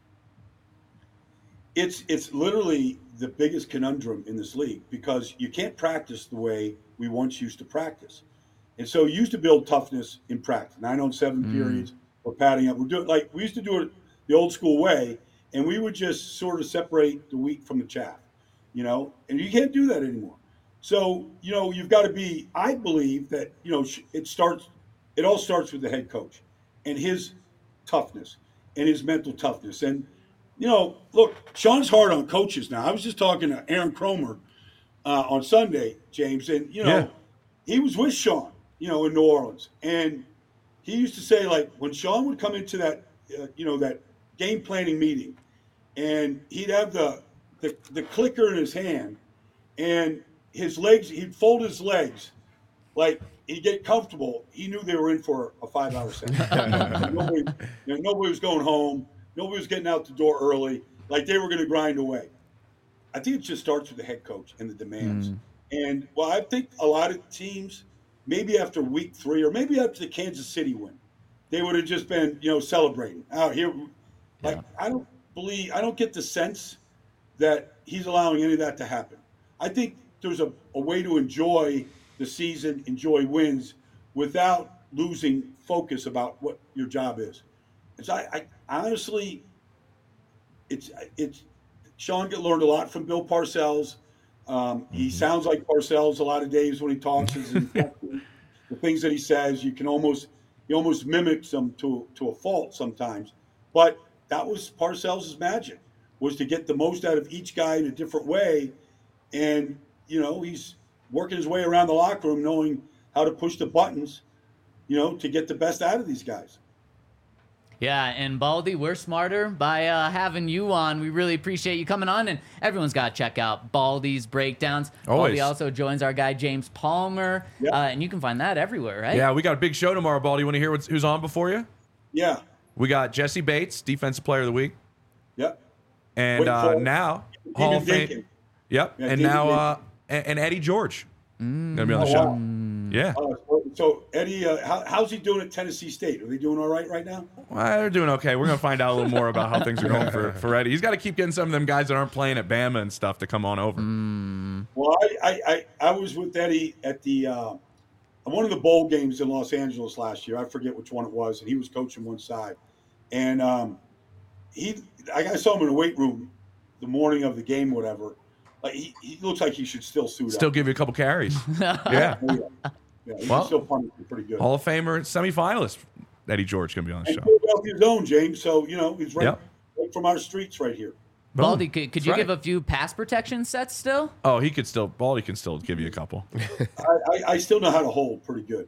It's literally the biggest conundrum in this league, because you can't practice the way we once used to practice. And so you used to build toughness in practice, 9-on-7 periods, we're padding up. We used to do it the old school way, and we would just sort of separate the wheat from the chaff, and you can't do that anymore. So, you've got to be, I believe that, it all starts with the head coach and his toughness and his mental toughness. And, look, Sean's hard on coaches now. I was just talking to Aaron Cromer on Sunday, James, and, he was with Sean, in New Orleans. And he used to say, like, when Sean would come into that, that game planning meeting, and he'd have the clicker in his hand, and his legs, he'd fold his legs, like he'd get comfortable. He knew they were in for a 5-hour session. Nobody was going home. Nobody was getting out the door early. Like they were going to grind away. I think it just starts with the head coach and the demands. And, well, I think a lot of teams, maybe after week 3 or maybe after the Kansas City win, they would have just been, celebrating out here. Like, I don't get the sense that he's allowing any of that to happen. I think there's a way to enjoy the season, enjoy wins, without losing focus about what your job is. And so I honestly, Sean learned a lot from Bill Parcells. He sounds like Parcells a lot of days when he talks. The things that he says, he almost mimics them to a fault sometimes. But that was Parcells' magic, was to get the most out of each guy in a different way. And, he's working his way around the locker room knowing how to push the buttons, to get the best out of these guys. Yeah, and Baldy, we're smarter by having you on. We really appreciate you coming on, and everyone's got to check out Baldy's breakdowns. Always. Baldy also joins our guy James Palmer, Yep. and you can find that everywhere, right? Yeah, we got a big show tomorrow, Baldy. You want to hear who's on before you? Yeah. We got Jesse Bates, Defensive Player of the Week. Yep. And now, Hall of Fame. Dakin. Yep. Yeah, and David now, and Eddie George. Going to be on the show. Wow. Yeah. So Eddie, how's he doing at Tennessee State? Are they doing all right now? Well, they're doing okay. We're going to find out a little more about how things are going for Eddie. He's got to keep getting some of them guys that aren't playing at Bama and stuff to come on over. Well, I was with Eddie at the one of the bowl games in Los Angeles last year. I forget which one it was, and he was coaching one side. And I saw him in a weight room the morning of the game, whatever. Like he looks like he should still suit Still up. give you a couple carries. Yeah. Yeah, he's Well, still punting pretty good. Hall of Famer, semifinalist. Eddie George going to be on the And show. Philadelphia's own, James. So he's right from our streets right here. Boom. Baldy, could you That's give right. a few pass protection sets still? Oh, Baldy can still give you a couple. I still know how to hold pretty good.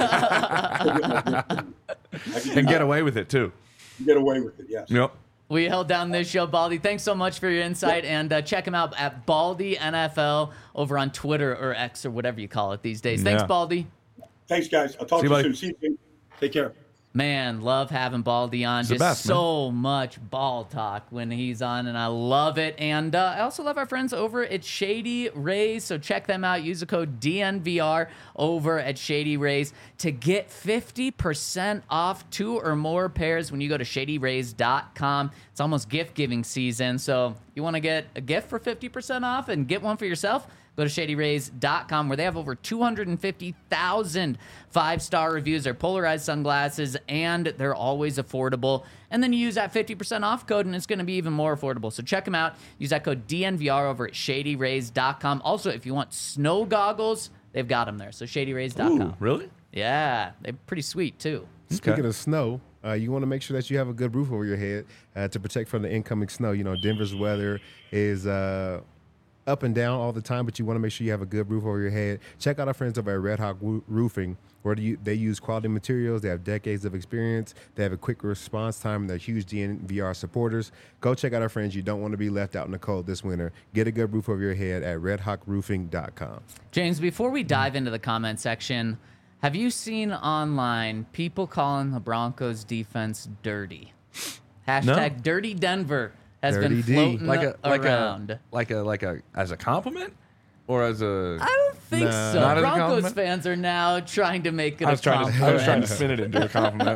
I can And get away with it, too. get away with it, yes. Yep. We held down this show, Baldy. Thanks so much for your insight, and check him out at Baldy NFL over on Twitter or X or whatever you call it these days. Thanks, Yeah. Baldy. Thanks, guys. I'll talk See to you, you buddy. soon. See you, Jim. Take care. Man, love having Baldy on. the Just best, man. so much ball talk when he's on, and I love it. And I also love our friends over at Shady Rays, so check them out. Use the code DNVR over at Shady Rays to get 50% off 2 or more pairs when you go to shadyrays.com. It's almost gift-giving season, so you want to get a gift for 50% off and get one for yourself? Go to shadyrays.com, where they have over 250,000 5-star reviews. They're polarized sunglasses, and they're always affordable. And then you use that 50% off code, and it's going to be even more affordable. So check them out. Use that code DNVR over at shadyrays.com. Also, if you want snow goggles, they've got them there. So shadyrays.com. Ooh, really? Yeah, they're pretty sweet, too. Speaking of snow, you want to make sure that you have a good roof over your head to protect from the incoming snow. Denver's weather is up and down all the time, but you want to make sure you have a good roof over your head. Check out our friends over at Red Hawk Roofing, where they use quality materials. They have decades of experience. They have a quick response time, and they're huge DNVR supporters. Go check out our friends. You don't want to be left out in the cold this winter. Get a good roof over your head at redhawkroofing.com. James, before we dive into the comment section, have you seen online people calling the Broncos defense dirty? Hashtag Dirty Denver has Dirty been D. floating around. Like a as a compliment or as a. I don't think Nah. so. Not as a Broncos compliment? fans are now trying to make it I was a trying compliment. to spin it into a compliment.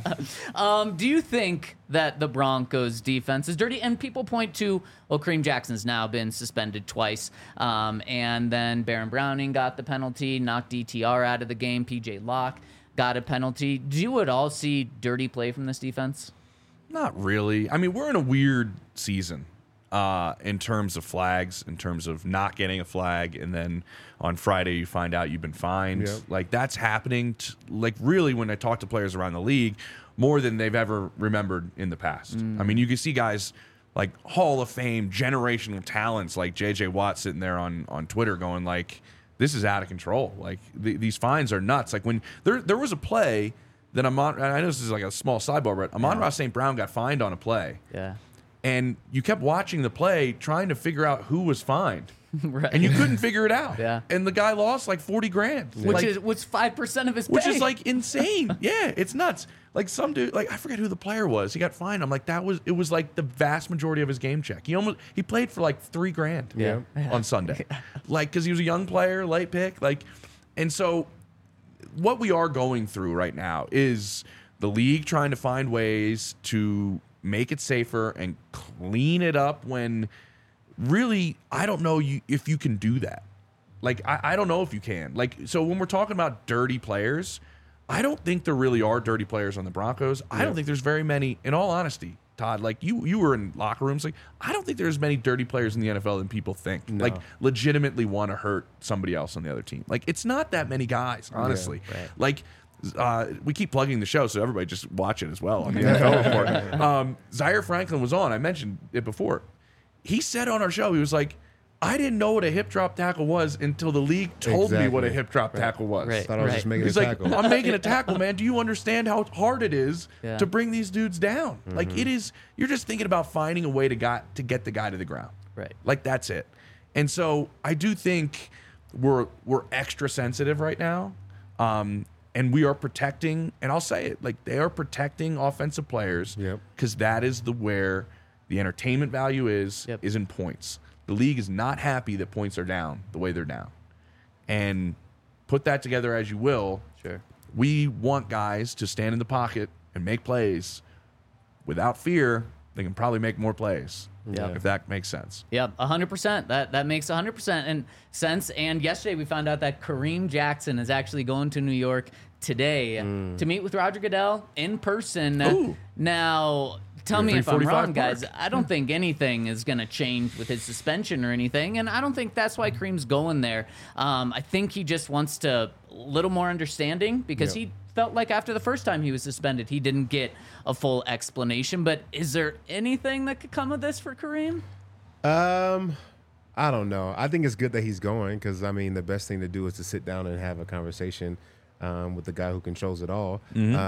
Yeah. Do you think that the Broncos defense is dirty? And people point to, well, Kareem Jackson's now been suspended twice. And then Baron Browning got the penalty, knocked DTR out of the game. PJ Locke got a penalty. Do you at all see dirty play from this defense? Not really. I mean, we're in a weird season in terms of flags, in terms of not getting a flag, and then on Friday you find out you've been fined. Yep. Like that's happening. Really, when I talk to players around the league, more than they've ever remembered in the past. I mean, you can see guys like Hall of Fame, generational talents like J.J. Watt sitting there on Twitter going like, "This is out of control. Like these fines are nuts." Like when there was a play. Then I know this is like a small sidebar, but Amon-Ra St. Brown got fined on a play. Yeah. And you kept watching the play trying to figure out who was fined. Right. And you couldn't figure it out. Yeah. And the guy lost like $40,000. Which Like, is 5% of his pay. which is like insane. Yeah, it's nuts. Like some dude, like I forget who the player was. He got fined. I'm like, it was like the vast majority of his game check. He played for like $3,000 Yeah. on Sunday. Like, cause he was a young player, late pick. Like, and so what we are going through right now is the league trying to find ways to make it safer and clean it up when really, I don't know if you can do that. Like, I don't know if you can. Like, so when we're talking about dirty players, I don't think there really are dirty players on the Broncos. I don't think there's very many, in all honesty, Todd, like you were in locker rooms. Like, I don't think there's many dirty players in the NFL than people think. No. Like, legitimately want to hurt somebody else on the other team. Like, it's not that many guys, honestly. Yeah, right. Like, we keep plugging the show, so everybody just watch it as well on the NFL Report. Zaire Franklin was on. I mentioned it before. He said on our show, he was like, I didn't know what a hip drop tackle was until the league told me what a hip drop tackle was. Right. Thought I was just making He's a like, tackle. I'm making a tackle, man. Do you understand how hard it is Yeah. to bring these dudes down? Like, it is. You're just thinking about finding a way to get the guy to the ground. Right. Like, that's it. And so I do think we're extra sensitive right now, and we are protecting. And I'll say it, like, they are protecting offensive players because that is where the entertainment value is in points. The league is not happy that points are down the way they're down. And put that together as you will. Sure. We want guys to stand in the pocket and make plays without fear. They can probably make more plays. Yeah. If that makes sense. Yep, 100%. That makes 100% and sense. And yesterday we found out that Kareem Jackson is actually going to New York today to meet with Roger Goodell in person. Ooh. Now, tell me if I'm 345 wrong, guys. Park. I don't think anything is going to change with his suspension or anything, and I don't think that's why Kareem's going there. I think he just wants to a little more understanding because he felt like after the first time he was suspended, he didn't get a full explanation. But is there anything that could come of this for Kareem? I don't know. I think it's good that he's going because, I mean, the best thing to do is to sit down and have a conversation with the guy who controls it all.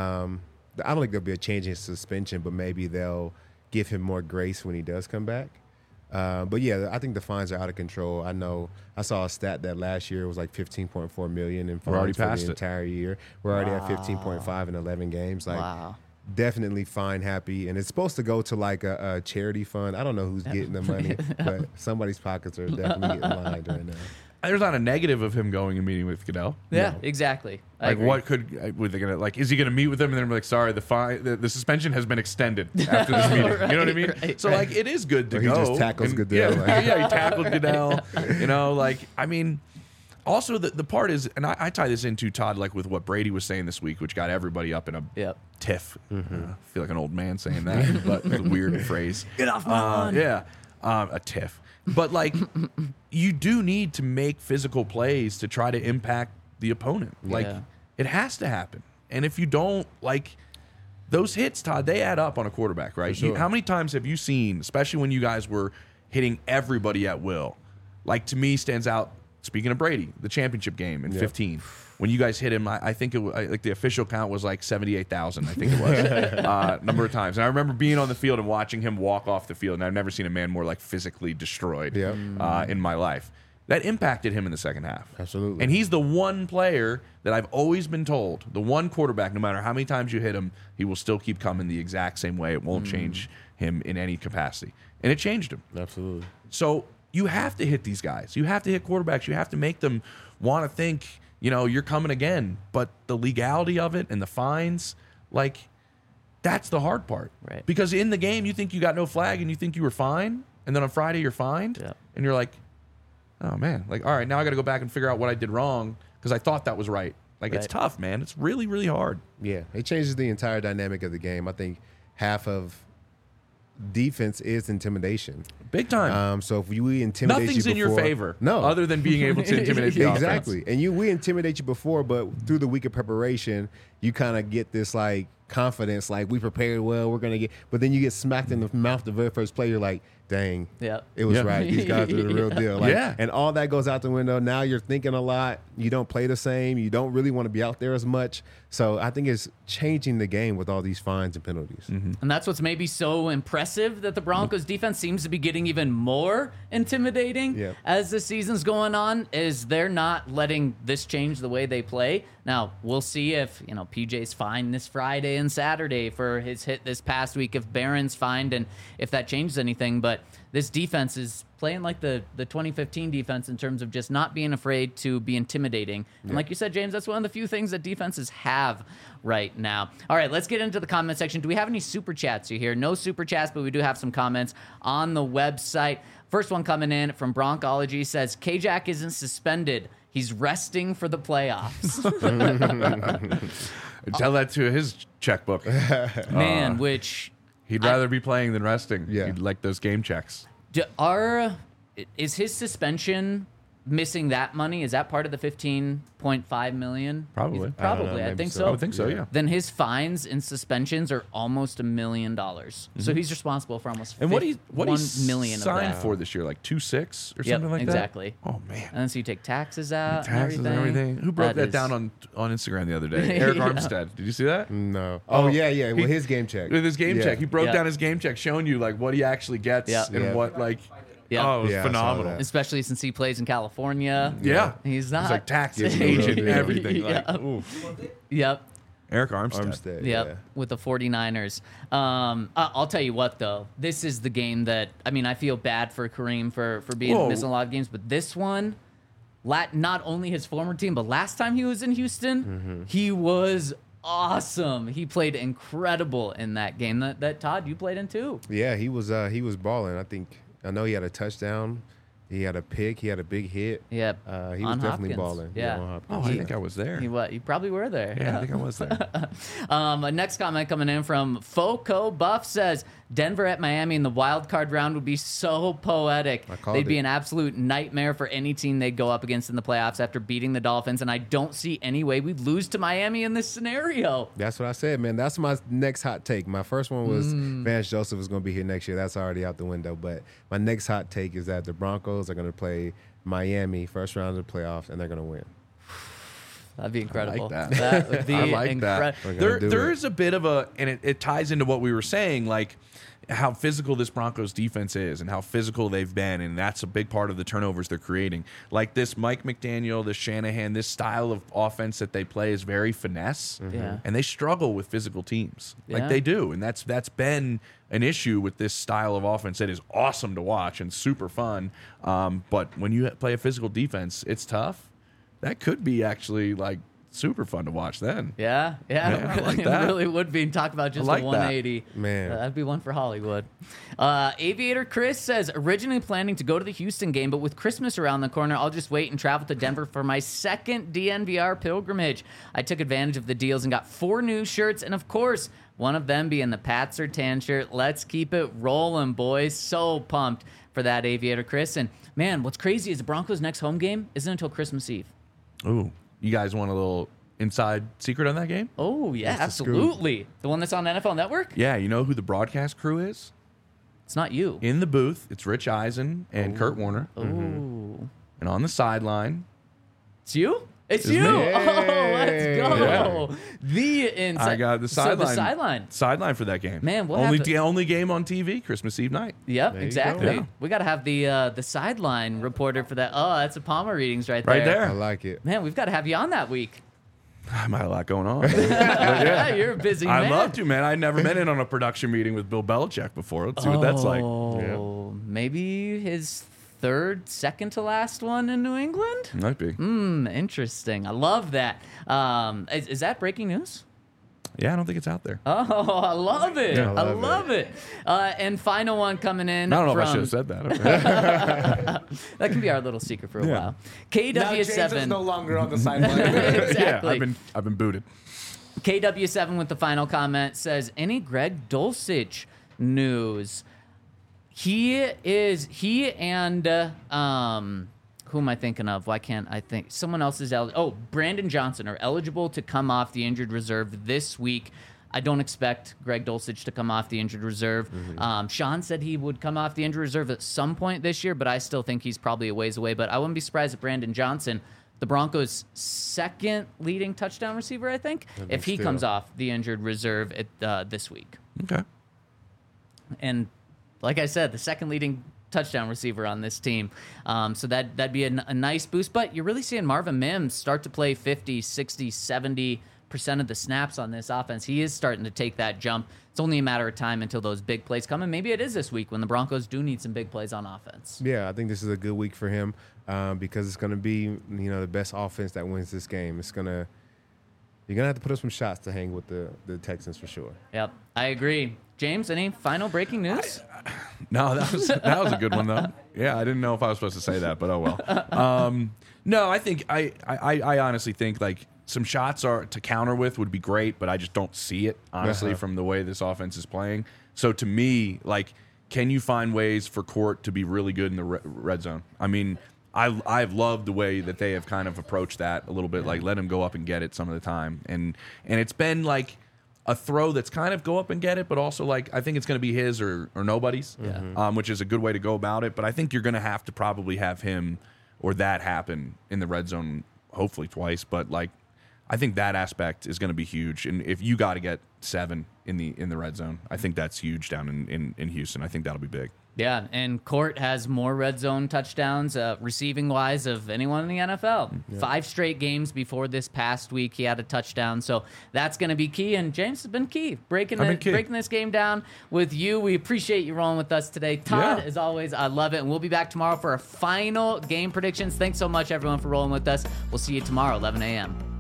I don't think there'll be a change in suspension, but maybe they'll give him more grace when he does come back. But yeah, I think the fines are out of control. I know I saw a stat that last year it was like 15.4 million in We're already fines for past the it. entire year. We're already at 15.5 in 11 games. Like, Wow. definitely fine happy, and it's supposed to go to like a charity fund. I don't know who's getting the money, but somebody's pockets are definitely getting lined right now. There's not a negative of him going and meeting with Goodell. Yeah, exactly. I Like, agree. what could were they gonna like? Is he gonna meet with them and then be like, sorry, the suspension has been extended after this meeting? You know what I mean? Right, So like, it is good to Or he go. just tackles and- Goodell, Yeah, like- yeah, he tackled Goodell. You know, like, I mean, also the part is, and I tie this into Todd, like with what Brady was saying this week, which got everybody up in a Yep. tiff. I feel like an old man saying that, but it's a weird phrase. Get off my lawn. Yeah, a tiff. But like, you do need to make physical plays to try to impact the opponent. Like, Yeah. it has to happen. And if you don't, like, those hits, Todd, they add up on a quarterback, right? For sure. How many times have you seen, especially when you guys were hitting everybody at will? Like, to me, stands out. Speaking of Brady, the championship game in 15, when you guys hit him, I think it was like the official count was like 78,000. I think it was number of times. And I remember being on the field and watching him walk off the field, and I've never seen a man more like physically destroyed in my life. That impacted him in the second half. Absolutely. And he's the one player that I've always been told, the one quarterback, no matter how many times you hit him, he will still keep coming the exact same way. It won't change him in any capacity. And it changed him. Absolutely. So you have to hit these guys. You have to hit quarterbacks. You have to make them want to think, you know, you're coming again. But the legality of it and the fines, like, that's the hard part. Right. Because in the game, you think you got no flag and you think you were fine. And then on Friday, you're fined. Yeah. And you're like, oh, man. Like, all right, now I got to go back and figure out what I did wrong because I thought that was right. Like, it's Right. tough, man. It's really, really hard. Yeah, it changes the entire dynamic of the game. I think half of defense is intimidation. Big time. So if we intimidate Nothing's you in your before- favor. no, Other than being able to intimidate the offense. exactly. And we intimidate you before, but through the week of preparation, you kind of get this like confidence, like we prepared well, we're gonna get. But then you get smacked in the mouth the very first play. You're like, dang, Yeah. it was Yeah. right. These guys are the real deal. Like, Yeah. and all that goes out the window. Now you're thinking a lot. You don't play the same. You don't really want to be out there as much. So I think it's changing the game with all these fines and penalties. And that's what's maybe so impressive that the Broncos defense seems to be getting even more intimidating Yep. as the season's going on, is they're not letting this change the way they play. Now, we'll see if, you know, PJ's fined this Friday and Saturday for his hit this past week, if Barron's fined, and if that changes anything. But this defense is playing like the 2015 defense in terms of just not being afraid to be intimidating. And like you said, James, that's one of the few things that defenses have right now. All right, let's get into the comment section. Do we have any super chats you hear? No super chats, but we do have some comments on the website. First one coming in from Broncology says, K-Jack isn't suspended. He's resting for the playoffs. Tell that to his checkbook. Man, which He'd rather be playing than resting. Yeah. He'd like those game checks. Is his suspension missing that money? Is that part of the $15.5 million? Probably. Probably. I maybe think so. so. I would think so, yeah. Then his fines and suspensions are almost $1 million. So he's responsible for almost And what he $1 million of signed that. for this year, like 2.6 or Yep, something like exactly. that. Oh man, And then so you take taxes out, taxes and everything. Who broke that is- down on Instagram the other day? Eric Yeah. Armstead. Did you see that? No. Oh, yeah. He- With his game check. With his game Yeah. check, he broke Yeah. down his game check, showing you like what he actually gets Yeah. and Yeah. what like. Yeah. Oh, it was Yeah, I saw phenomenal. that. Especially since he plays in California. Yeah, He's not. It's like taxes, Yeah. agent, Yeah. everything. Like, Yeah. ooh. Yep. Eric Armstead. Armstead. Yep, Yeah. with the 49ers. I'll tell you what, though. This is the game that, I mean, I feel bad for Kareem for being Whoa. missing a lot of games, but this one, not only his former team, but last time he was in Houston, he was awesome. He played incredible in that game that Todd, you played in too. Yeah, he was balling. I know he had a touchdown. He had a pick. He had a big hit. Yep. He was On definitely Hopkins. balling. Yeah. on Oh, Hopkins. I think I was there. You probably were there. Yeah, I think I was there. Next comment coming in from Foco Buff says, Denver at Miami in the wild card round would be so poetic. called They'd be it. an absolute nightmare for any team they'd go up against in the playoffs after beating the Dolphins, and I don't see any way we'd lose to Miami in this scenario. That's what I said, man. That's my next hot take. My first one was Vance Joseph is going to be here next year. That's already out the window. But my next hot take is that the Broncos are going to play Miami first round of the playoffs, and they're going to win. That'd be incredible. that. That would be I like incredible. that. We're gonna do There it. is a bit of a, and it ties into what we were saying, like how physical this Broncos defense is and how physical they've been, and that's a big part of the turnovers they're creating. Like this Mike McDaniel, this Shanahan, this style of offense that they play is very finesse, Yeah. and they struggle with physical teams. Yeah. Like they do, and that's been an issue with this style of offense that is awesome to watch and super fun. But when you play a physical defense, it's tough. That could be actually like super fun to watch then. Yeah, Yeah, I like it that. really would be. Talk about just I like a that. 180. Man. That'd be one for Hollywood. Aviator Chris says, originally planning to go to the Houston game, but with Christmas around the corner, I'll just wait and travel to Denver for my second DNVR pilgrimage. I took advantage of the deals and got 4 new shirts, and of course, one of them being the Pats or Tan shirt. Let's keep it rolling, boys. So pumped for that, Aviator Chris. And man, what's crazy is the Broncos' next home game isn't until Christmas Eve. Ooh, you guys want a little inside secret on that game? Oh, yeah, That's the scoop. absolutely. The one that's on NFL Network? Yeah, you know who the broadcast crew is? It's not you. In the booth, it's Rich Eisen and Kurt Warner. Oh, And on the sideline, it's you? It's It's you. me. Oh, let's go. Yeah. The inside. I got the So sideline. the sideline. Sideline for that game. Man, we'll only have to- only game on TV, Christmas Eve night. Yep, There you exactly. go. Yeah. We got to have the sideline reporter for that. Oh, that's a Palmer readings right Right there. I there. like it. Man, we've got to have you on that week. I might have a lot going on. You're a busy man. I love to, man. I'd never been in on a production meeting with Bill Belichick before. Let's see what that's like. Oh, maybe his second to last one in New England? Might be. Interesting. I love that. Is that breaking news? Yeah, I don't think it's out there. Oh, I love it. Yeah, I love it. And final one coming in. I don't know from, if I should have said that. That can be our little secret for a Yeah. while. Now James is KW7. no longer on the sideline. Exactly. Yeah, I've been booted. KW7 with the final comment says, any Greg Dulcich news? He and who am I thinking of? Why can't I think? Someone else is eligible. Oh, Brandon Johnson are eligible to come off the injured reserve this week. I don't expect Greg Dulcich to come off the injured reserve. Sean said he would come off the injured reserve at some point this year, but I still think he's probably a ways away. But I wouldn't be surprised if Brandon Johnson, the Broncos' second leading touchdown receiver, I think, if he still. comes off the injured reserve this week. Okay. And like I said, the second leading touchdown receiver on this team. So that'd be a nice boost. But you're really seeing Marvin Mims start to play 50, 60, 70% of the snaps on this offense. He is starting to take that jump. It's only a matter of time until those big plays come. And maybe it is this week when the Broncos do need some big plays on offense. Yeah, I think this is a good week for him because it's going to be the best offense that wins this game. You're gonna have to put up some shots to hang with the Texans for sure. Yep, I agree. James, any final breaking news? No, that was a good one though. Yeah, I didn't know if I was supposed to say that, but oh well. No, I think I honestly think like some shots are to counter with would be great, but I just don't see it, honestly, from the way this offense is playing. So to me, like, can you find ways for Court to be really good in the red zone? I mean, I've loved the way that they have kind of approached that a little bit, like let him go up and get it some of the time. And it's been like a throw that's kind of go up and get it, but also like I think it's going to be his or nobody's, which is a good way to go about it. But I think you're going to have to probably have him or that happen in the red zone, hopefully twice. But like I think that aspect is going to be huge. And if you got to get 7 in the red zone, I think that's huge down in Houston. I think that'll be big. Yeah, and Court has more red zone touchdowns receiving-wise of anyone in the NFL. 5 straight games before this past week, he had a touchdown. So that's going to be key, and James has been key. Breaking this game down with you. We appreciate you rolling with us today. Todd, as always, I love it, and we'll be back tomorrow for our final game predictions. Thanks so much, everyone, for rolling with us. We'll see you tomorrow, 11 a.m.